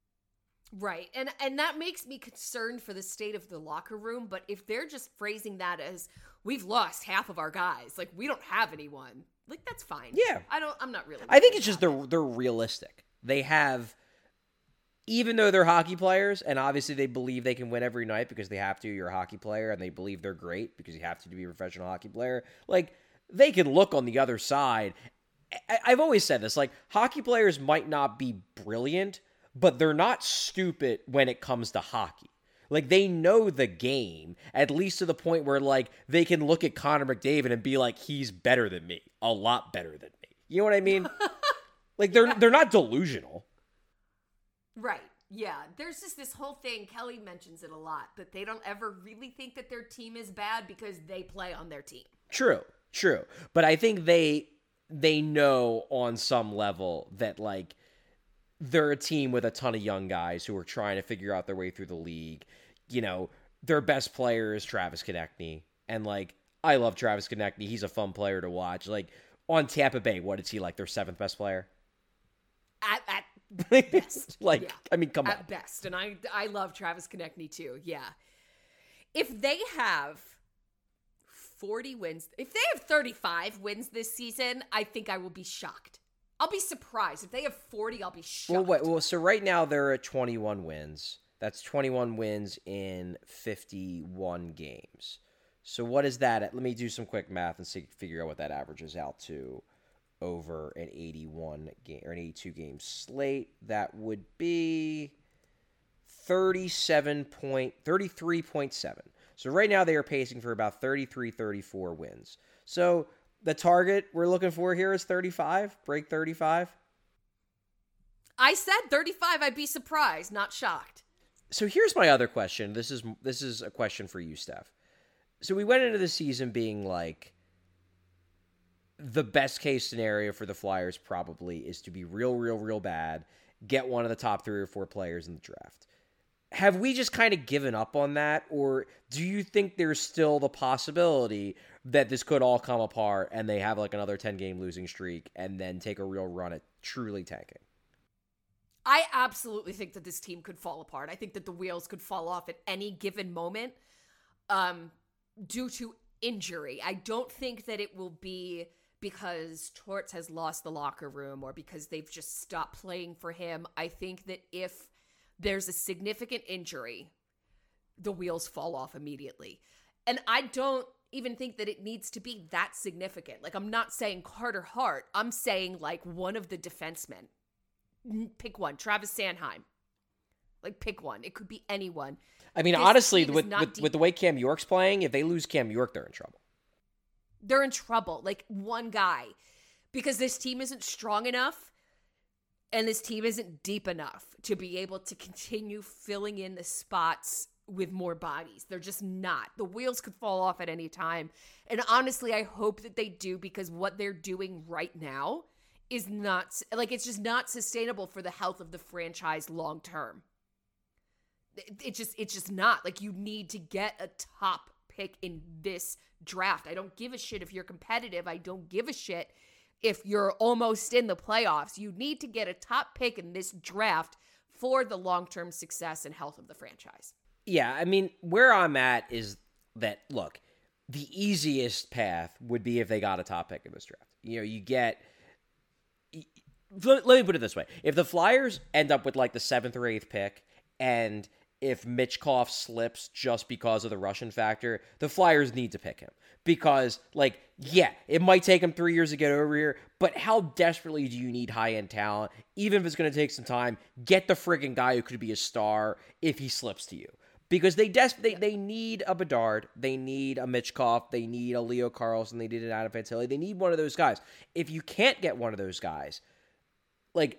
Right. And and that makes me concerned for the state of the locker room. But if they're just phrasing that as, we've lost half of our guys, like, we don't have anyone, like, that's fine. Yeah. I don't, I'm not really. I think it's just they're, they're realistic. They have, even though they're hockey players, and obviously they believe they can win every night because they have to, you're a hockey player, and they believe they're great because you have to to be a professional hockey player, like, they can look on the other side. I, I've always said this, like, hockey players might not be brilliant, but they're not stupid when it comes to hockey. Like, they know the game, at least to the point where, like, they can look at Connor McDavid and be like, he's better than me, a lot better than me. You know what I mean? Like, they're they're not delusional. Right. Yeah. There's just this whole thing, Kelly mentions it a lot, that they don't ever really think that their team is bad because they play on their team. True. True. But I think they they know on some level that, like, they're a team with a ton of young guys who are trying to figure out their way through the league. You know, their best player is Travis Konechny. And, like, I love Travis Konechny. He's a fun player to watch. Like, on Tampa Bay, what is he, like, their seventh best player? At, at best. like, yeah. I mean, come at on. At best. And I, I love Travis Konechny, too. Yeah. If they have forty wins, if they have thirty-five wins this season, I think I will be shocked. I'll be surprised. If they have forty, I'll be shocked. Well, wait, well, so right now they're at twenty-one wins. That's twenty-one wins in fifty-one games. So what is that? At, let me do some quick math and see, figure out what that averages out to over an eighty-one game or an eighty-two game slate. That would be thirty-seven point thirty-three point seven. So right now they are pacing for about thirty-three, thirty-four wins. So the target we're looking for here is thirty-five, break thirty-five. I said thirty-five, I'd be surprised, not shocked. So here's my other question. This is this is a question for you, Steph. So we went into the season being like, the best case scenario for the Flyers probably is to be real, real, real bad, get one of the top three or four players in the draft. Have we just kind of given up on that? Or do you think there's still the possibility that this could all come apart and they have like another ten-game losing streak and then take a real run at truly tanking? I absolutely think that this team could fall apart. I think that the wheels could fall off at any given moment um, due to injury. I don't think that it will be because Torts has lost the locker room or because they've just stopped playing for him. I think that if there's a significant injury, the wheels fall off immediately. And I don't even think that it needs to be that significant. Like, I'm not saying Carter Hart. I'm saying, like, one of the defensemen. Pick one. Travis Sanheim. Like, pick one. It could be anyone. I mean, this honestly, with, with, deep- with the way Cam York's playing, if they lose Cam York, they're in trouble. They're in trouble. Like, one guy. because this team isn't strong enough and this team isn't deep enough to be able to continue filling in the spots with more bodies. They're just not. The wheels could fall off at any time. And honestly, I hope that they do, because what they're doing right now is not, like, it's just not sustainable for the health of the franchise long term. It, it just, it's just not. Like, you need to get a top pick in this draft. I don't give a shit if you're competitive. I don't give a shit if you're almost in the playoffs. You need to get a top pick in this draft for the long-term success and health of the franchise. Yeah, I mean, where I'm at is that, look, the easiest path would be if they got a top pick in this draft. You know, you get... Let me put it this way. If the Flyers end up with, like, the seventh or eighth pick, and if Michkov slips just because of the Russian factor, the Flyers need to pick him. Because, like, yeah, it might take him three years to get over here, but how desperately do you need high-end talent? Even if it's going to take some time, get the friggin' guy who could be a star if he slips to you. Because they des- they, they need a Bedard, they need a Michkov, they need a Leo Carlson, they need an Adam Fantilli, they need one of those guys. If you can't get one of those guys, like,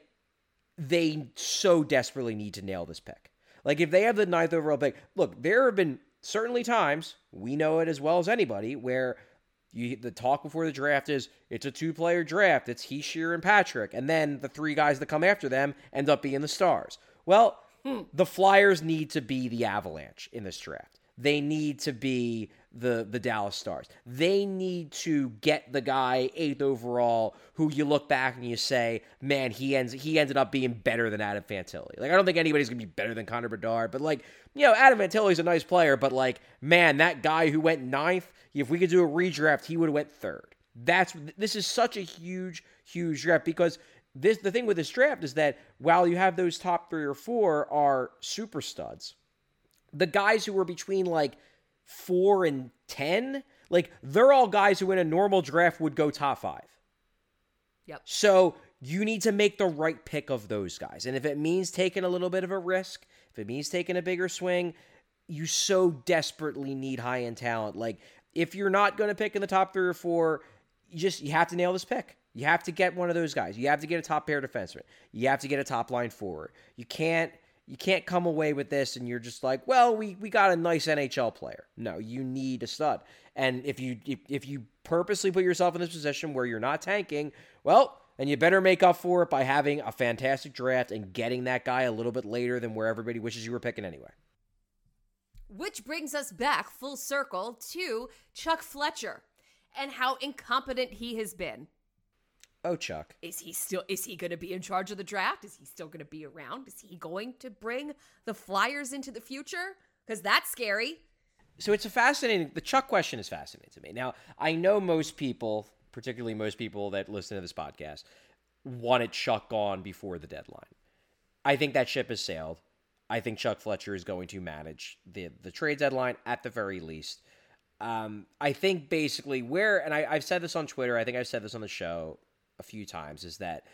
they so desperately need to nail this pick. Like, if they have the ninth overall pick, look, there have been certainly times, we know it as well as anybody, where you the talk before the draft is, it's a two-player draft, it's Hischier and Patrick, and then the three guys that come after them end up being the stars. Well, hmm. the Flyers need to be the Avalanche in this draft. They need to be the the Dallas Stars. They need to get the guy eighth overall who you look back and you say, man, he ends he ended up being better than Adam Fantilli. Like, I don't think anybody's going to be better than Connor Bedard, but, like, you know, Adam Fantilli's a nice player, but, like, man, that guy who went ninth, if we could do a redraft, he would have went third. That's this is such a huge, huge draft, because this the thing with this draft is that while you have those top three or four are super studs, the guys who were between, like, four and ten, like, they're all guys who in a normal draft would go top five. Yep. So you need to make the right pick of those guys. And if it means taking a little bit of a risk, if it means taking a bigger swing, you so desperately need high-end talent. Like, if you're not going to pick in the top three or four, you just, you have to nail this pick. You have to get one of those guys. You have to get a top pair defenseman. You have to get a top line forward. You can't You can't come away with this and you're just like, well, we, we got a nice N H L player. No, you need a stud. And if you if, if you purposely put yourself in this position where you're not tanking, well, then you better make up for it by having a fantastic draft and getting that guy a little bit later than where everybody wishes you were picking anyway. Which brings us back full circle to Chuck Fletcher and how incompetent he has been. Oh, Chuck. Is he still, is he going to be in charge of the draft? Is he still going to be around? Is he going to bring the Flyers into the future? Because that's scary. So it's a fascinating, the Chuck question is fascinating to me. Now, I know most people, particularly most people that listen to this podcast, wanted Chuck gone before the deadline. I think that ship has sailed. I think Chuck Fletcher is going to manage the, the trade deadline at the very least. Um, I think basically where, and I, I've said this on Twitter, I think I've said this on the show a few times, is that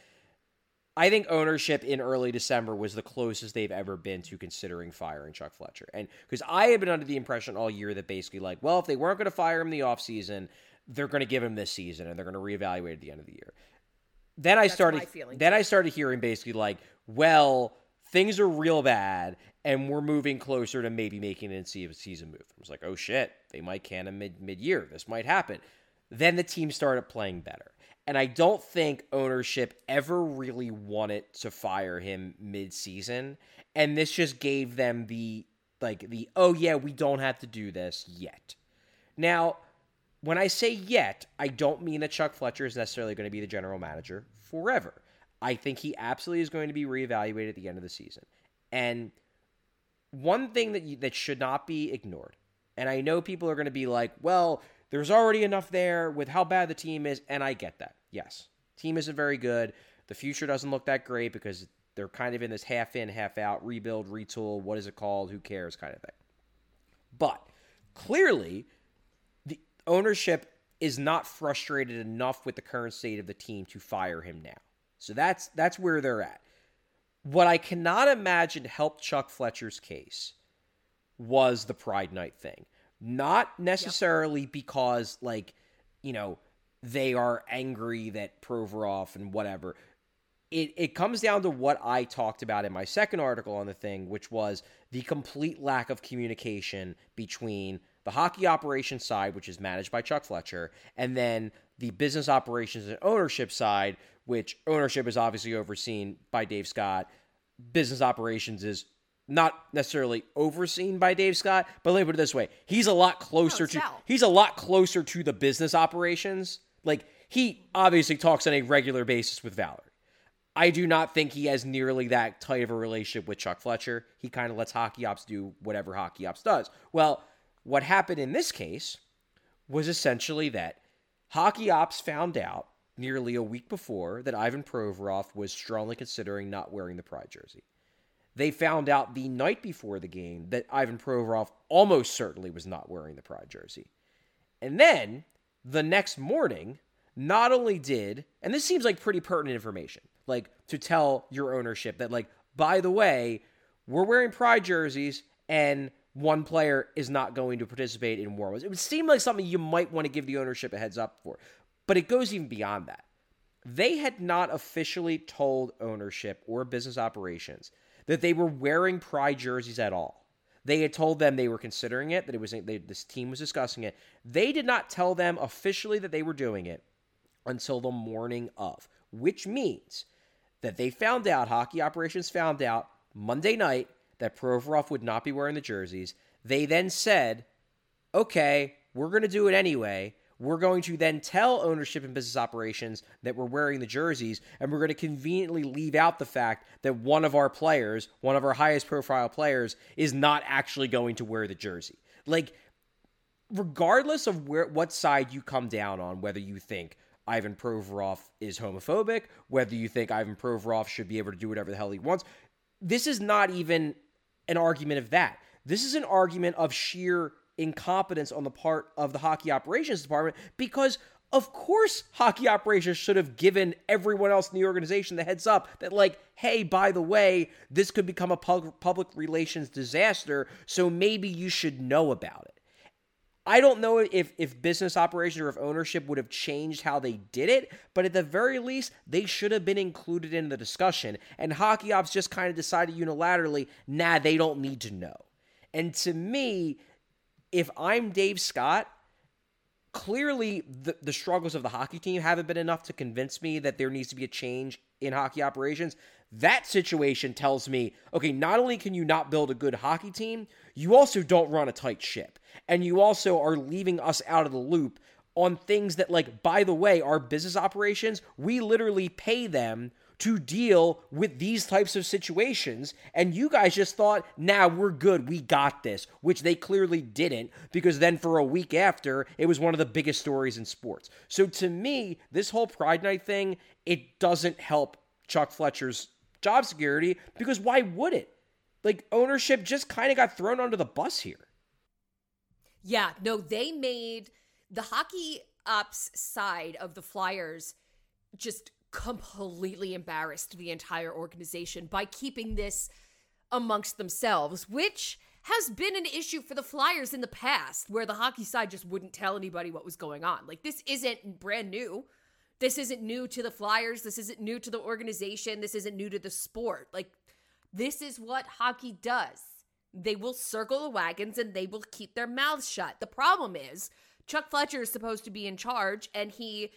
I think ownership in early December was the closest they've ever been to considering firing Chuck Fletcher. And because I had been under the impression all year that basically, like, well, if they weren't going to fire him in the offseason, they're going to give him this season and they're going to reevaluate at the end of the year. Then I That's started my feeling. then I started hearing basically like, well, things are real bad and we're moving closer to maybe making an in-season move. I was like, oh shit, they might can him mid mid-year. This might happen. Then the team started playing better. And I don't think ownership ever really wanted to fire him mid-season. And this just gave them the, like, the, oh yeah, we don't have to do this yet. Now, when I say yet, I don't mean that Chuck Fletcher is necessarily going to be the general manager forever. I think he absolutely is going to be reevaluated at the end of the season. And one thing that you, that should not be ignored, and I know people are going to be like, well, there's already enough there with how bad the team is, and I get that. Yes, team isn't very good. The future doesn't look that great because they're kind of in this half in, half out, rebuild, retool, what is it called, who cares kind of thing. But clearly, the ownership is not frustrated enough with the current state of the team to fire him now. So that's that's where they're at. What I cannot imagine helped Chuck Fletcher's case was the Pride Night thing. Not necessarily yep. because, like, you know, they are angry that Provorov and whatever. It it comes down to what I talked about in my second article on the thing, which was the complete lack of communication between the hockey operations side, which is managed by Chuck Fletcher, and then the business operations and ownership side, which ownership is obviously overseen by Dave Scott. Business operations is not necessarily overseen by Dave Scott, but let me put it this way. He's a lot closer No, to Sal. he's a lot closer to the business operations. Like, he obviously talks on a regular basis with Valerie. I do not think he has nearly that tight of a relationship with Chuck Fletcher. He kind of lets Hockey Ops do whatever Hockey Ops does. Well, what happened in this case was essentially that Hockey Ops found out nearly a week before that Ivan Provorov was strongly considering not wearing the Pride jersey. They found out the night before the game that Ivan Provorov almost certainly was not wearing the Pride jersey. And then, the next morning, not only did, and this seems like pretty pertinent information, like, to tell your ownership that, like, by the way, we're wearing Pride jerseys and one player is not going to participate in warm-ups. It would seem like something you might want to give the ownership a heads up for. But it goes even beyond that. They had not officially told ownership or business operations that they were wearing Pride jerseys at all. They had told them they were considering it, that it was they, this team was discussing it. They did not tell them officially that they were doing it until the morning of, which means that they found out, hockey operations found out Monday night that Provorov would not be wearing the jerseys. They then said, okay, we're going to do it anyway. We're going to then tell ownership and business operations that we're wearing the jerseys, and we're going to conveniently leave out the fact that one of our players, one of our highest profile players, is not actually going to wear the jersey. Like, regardless of where what side you come down on, whether you think Ivan Provorov is homophobic, whether you think Ivan Provorov should be able to do whatever the hell he wants, this is not even an argument of that. This is an argument of sheer incompetence on the part of the hockey operations department, because of course hockey operations should have given everyone else in the organization the heads up that, like, hey, by the way, this could become a pub- public relations disaster, so maybe you should know about it. I don't know if, if business operations or if ownership would have changed how they did it, but at the very least, they should have been included in the discussion. And Hockey Ops just kind of decided unilaterally, nah, they don't need to know. And to me, if I'm Dave Scott, clearly the, the struggles of the hockey team haven't been enough to convince me that there needs to be a change in hockey operations. That situation tells me, okay, not only can you not build a good hockey team, you also don't run a tight ship. And you also are leaving us out of the loop on things that, like, by the way, our business operations, we literally pay them to deal with these types of situations. And you guys just thought, nah, we're good, we got this, which they clearly didn't, because then for a week after, it was one of the biggest stories in sports. So to me, this whole Pride Night thing, it doesn't help Chuck Fletcher's job security, because why would it? Like, ownership just kind of got thrown under the bus here. Yeah, no, they made the hockey ops side of the Flyers just completely embarrassed the entire organization by keeping this amongst themselves, which has been an issue for the Flyers in the past, where the hockey side just wouldn't tell anybody what was going on. Like, this isn't brand new. This isn't new to the Flyers. This isn't new to the organization. This isn't new to the sport. Like, this is what hockey does. They will circle the wagons and they will keep their mouths shut. The problem is, Chuck Fletcher is supposed to be in charge, and he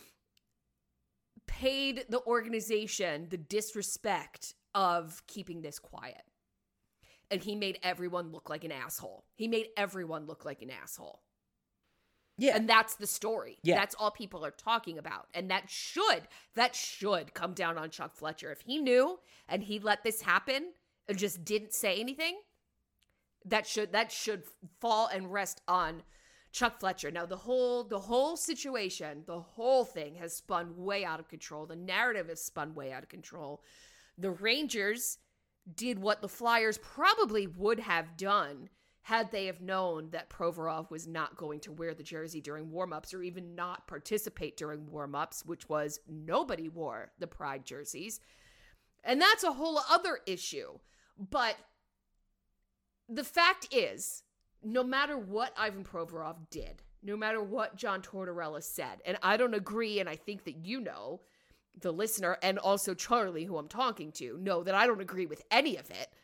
paid the organization the disrespect of keeping this quiet. And he made everyone look like an asshole. He made everyone look like an asshole. Yeah. And that's the story. Yeah. That's all people are talking about. And that should, that should come down on Chuck Fletcher. If he knew and he let this happen and just didn't say anything, that should, that should fall and rest on Chuck Fletcher. Now, the whole, the whole situation, the whole thing has spun way out of control. The narrative has spun way out of control. The Rangers did what the Flyers probably would have done had they have known that Provorov was not going to wear the jersey during warmups, or even not participate during warmups, which was nobody wore the Pride jerseys. And that's a whole other issue. But the fact is, no matter what Ivan Provorov did, no matter what John Tortorella said. And I don't agree, and I think that you know, the listener, and also Charlie, who I'm talking to, know that I don't agree with any of it.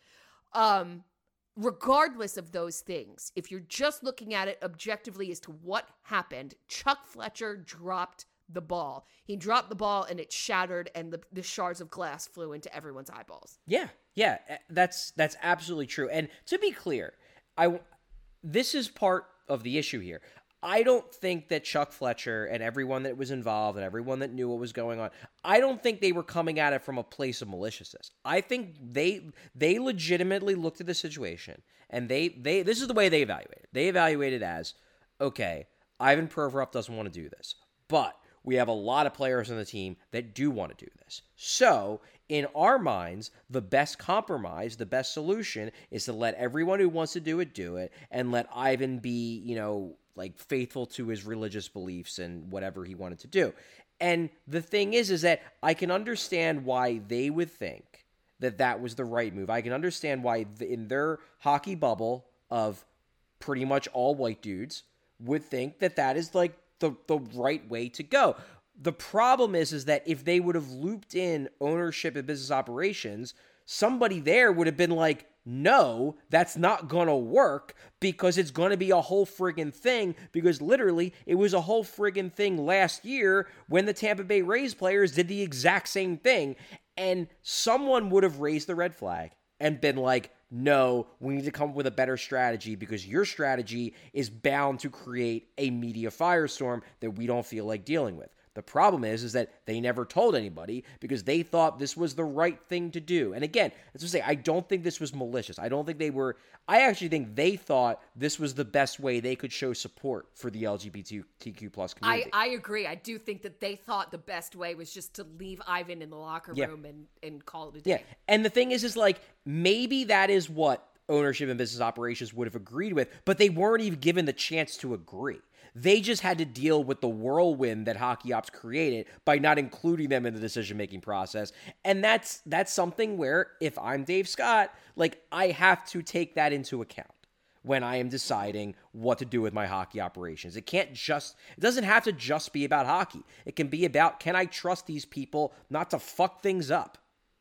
Um, regardless of those things, if you're just looking at it objectively as to what happened, Chuck Fletcher dropped the ball. He dropped the ball and it shattered, and the, the shards of glass flew into everyone's eyeballs. Yeah, yeah, that's that's absolutely true. And to be clear, I this is part of the issue here. I don't think that Chuck Fletcher and everyone that was involved and everyone that knew what was going on, I don't think they were coming at it from a place of maliciousness. I think they they legitimately looked at the situation, and they they this is the way they evaluated. They evaluated as, okay, Ivan Provorov doesn't want to do this, but we have a lot of players on the team that do want to do this. So, in our minds, the best compromise, the best solution is to let everyone who wants to do it do it, and let Ivan be, you know, like faithful to his religious beliefs and whatever he wanted to do. And the thing is, is that I can understand why they would think that that was the right move. I can understand why in their hockey bubble of pretty much all white dudes would think that that is like the, the right way to go. The problem is, is that if they would have looped in ownership and business operations, somebody there would have been like, no, that's not going to work because it's going to be a whole friggin' thing, because literally it was a whole friggin' thing last year when the Tampa Bay Rays players did the exact same thing, and someone would have raised the red flag and been like, no, we need to come up with a better strategy because your strategy is bound to create a media firestorm that we don't feel like dealing with. The problem is, is that they never told anybody because they thought this was the right thing to do. And again, as I say, I don't think this was malicious. I don't think they were, I actually think they thought this was the best way they could show support for the L G B T Q plus community. I, I agree. I do think that they thought the best way was just to leave Ivan in the locker Yeah. room and, and call it a day. Yeah. And the thing is, is like, maybe that is what ownership and business operations would have agreed with, but they weren't even given the chance to agree. They just had to deal with the whirlwind that Hockey Ops created by not including them in the decision-making process. And that's that's something where, if I'm Dave Scott, like, I have to take that into account when I am deciding what to do with my hockey operations. It can't just, it doesn't have to just be about hockey. It can be about, can I trust these people not to fuck things up?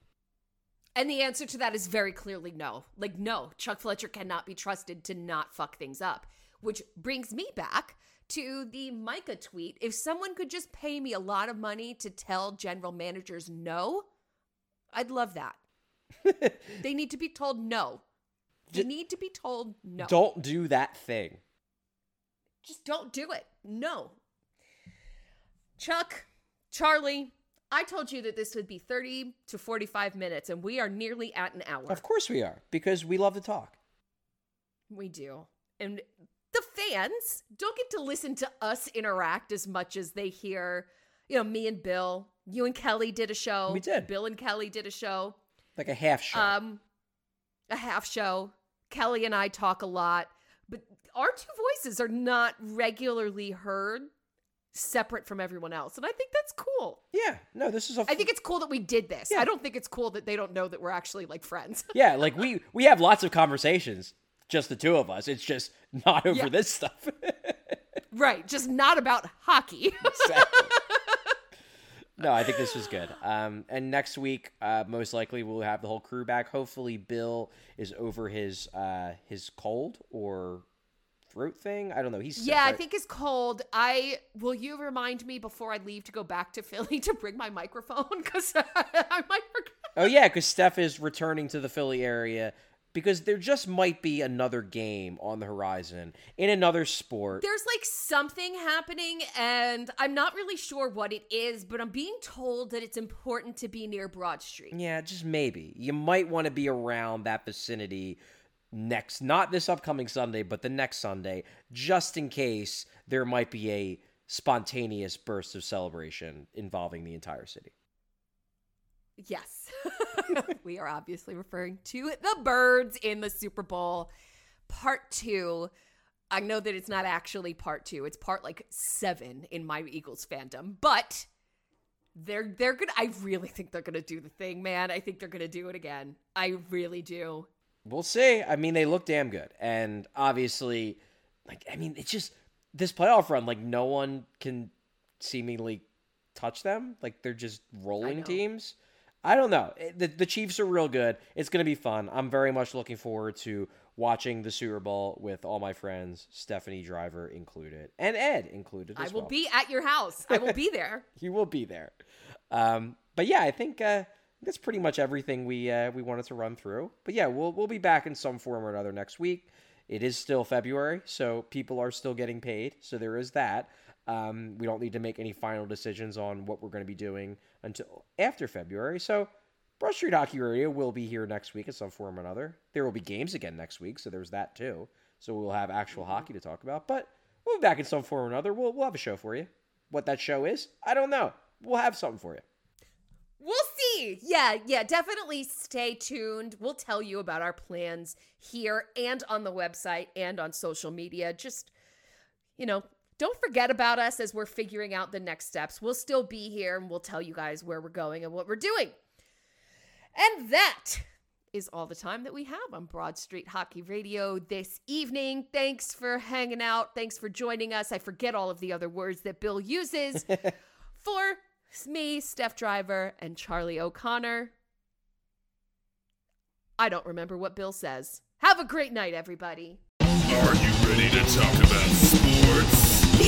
And the answer to that is very clearly no. Like, no, Chuck Fletcher cannot be trusted to not fuck things up. Which brings me back to the Micah tweet. If someone could just pay me a lot of money to tell general managers no, I'd love that. They need to be told no. They Just need to be told no. Don't do that thing. Just don't do it. No. Chuck, Charlie, I told you that this would be thirty to forty-five minutes, and we are nearly at an hour. Of course we are, because we love to talk. We do. And the fans don't get to listen to us interact as much as they hear, you know, me and Bill. You and Kelly did a show. We did. Bill and Kelly did a show. Like a half show. Um, a half show. Kelly and I talk a lot, but our two voices are not regularly heard separate from everyone else. And I think that's cool. Yeah. No, this is a... I think it's cool that we did this. Yeah. I don't think it's cool that they don't know that we're actually like friends. Yeah, like we, we have lots of conversations, just the two of us. It's just not over Yeah. this stuff. Right. Just not about hockey. Exactly. No, I think this was good. Um, and next week, uh, most likely we'll have the whole crew back. Hopefully, Bill is over his uh, his cold or throat thing. I don't know. He's sick, Yeah, I right? think it's cold. I will you remind me before I leave to go back to Philly to bring my microphone because I might forget. Oh yeah, because Steph is returning to the Philly area because there just might be another game on the horizon in another sport. There's like something happening, and I'm not really sure what it is, but I'm being told that it's important to be near Broad Street. Yeah, just maybe. You might want to be around that vicinity next, not this upcoming Sunday, but the next Sunday, just in case there might be a spontaneous burst of celebration involving the entire city. Yes. We are obviously referring to the birds in the Super Bowl. Part two. I know that it's not actually part two. It's part like seven in my Eagles fandom, but they're they're gonna I really think they're gonna do the thing, man. I think they're gonna do it again. I really do. We'll see. I mean, they look damn good. And obviously, like, I mean, it's just this playoff run, like no one can seemingly touch them. Like they're just rolling teams. I don't know. The, the Chiefs are real good. It's going to be fun. I'm very much looking forward to watching the Super Bowl with all my friends, Stephanie Driver included, and Ed included as I will well. be at your house. I will be there. You will be there. Um, but yeah, I think uh, that's pretty much everything we uh, we wanted to run through. But yeah, we'll we'll be back in some form or another next week. It is still February, so people are still getting paid. So there is that. Um, we don't need to make any final decisions on what we're going to be doing until after February. So Broad Street Hockey Radio will be here next week in some form or another. There will be games again next week, so there's that too. So we'll have actual hockey to talk about. But we'll be back in some form or another. We'll, we'll have a show for you. What that show is, I don't know. We'll have something for you. We'll see. Yeah, yeah, definitely stay tuned. We'll tell you about our plans here and on the website and on social media. Just, you know, don't forget about us as we're figuring out the next steps. We'll still be here and we'll tell you guys where we're going and what we're doing. And that is all the time that we have on Broad Street Hockey Radio this evening. Thanks for hanging out. Thanks for joining us. I forget all of the other words that Bill uses. For me, Steph Driver, and Charlie O'Connor, I don't remember what Bill says. Have a great night, everybody. Are you ready to talk about sports?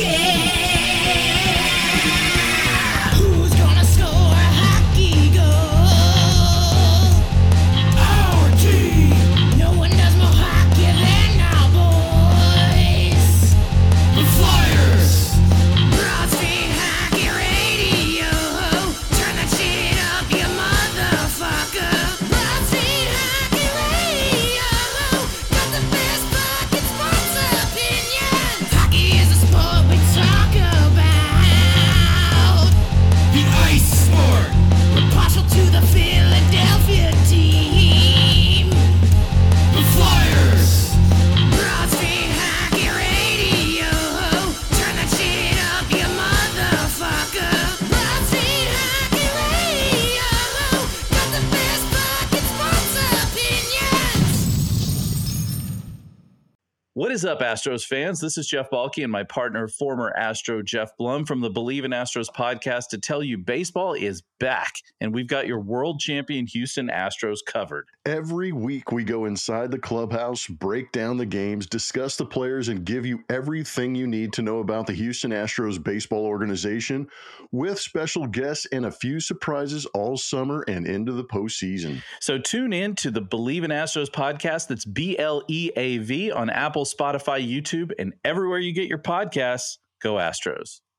Who's gonna score a hockey goal? Our team. No one does more hockey than our boys. The Flyers. Broad Street Hockey Radio. Turn that shit up, you motherfucker. Broad Street Hockey Radio. Got the best fucking sports opinions. Hockey is a sport we talk about. The ice sport. We're partial to the Philadelphia team. The Flyers. Broad Street Hockey Radio. Turn that shit up, you motherfucker. Broad Street Hockey Radio. Got the best fucking sports opinions. What is up, Astros fans? This is Jeff Balke and my partner, former Astro Jeff Blum from the Believe in Astros podcast to tell you baseball is back, and we've got your world champion Houston Astros covered. Every week we go inside the clubhouse, break down the games, discuss the players, and give you everything you need to know about the Houston Astros baseball organization with special guests and a few surprises all summer and into the postseason. So tune in to the Believe in Astros podcast. That's B L E A V on Apple, Spotify, YouTube, and everywhere you get your podcasts. Go Astros.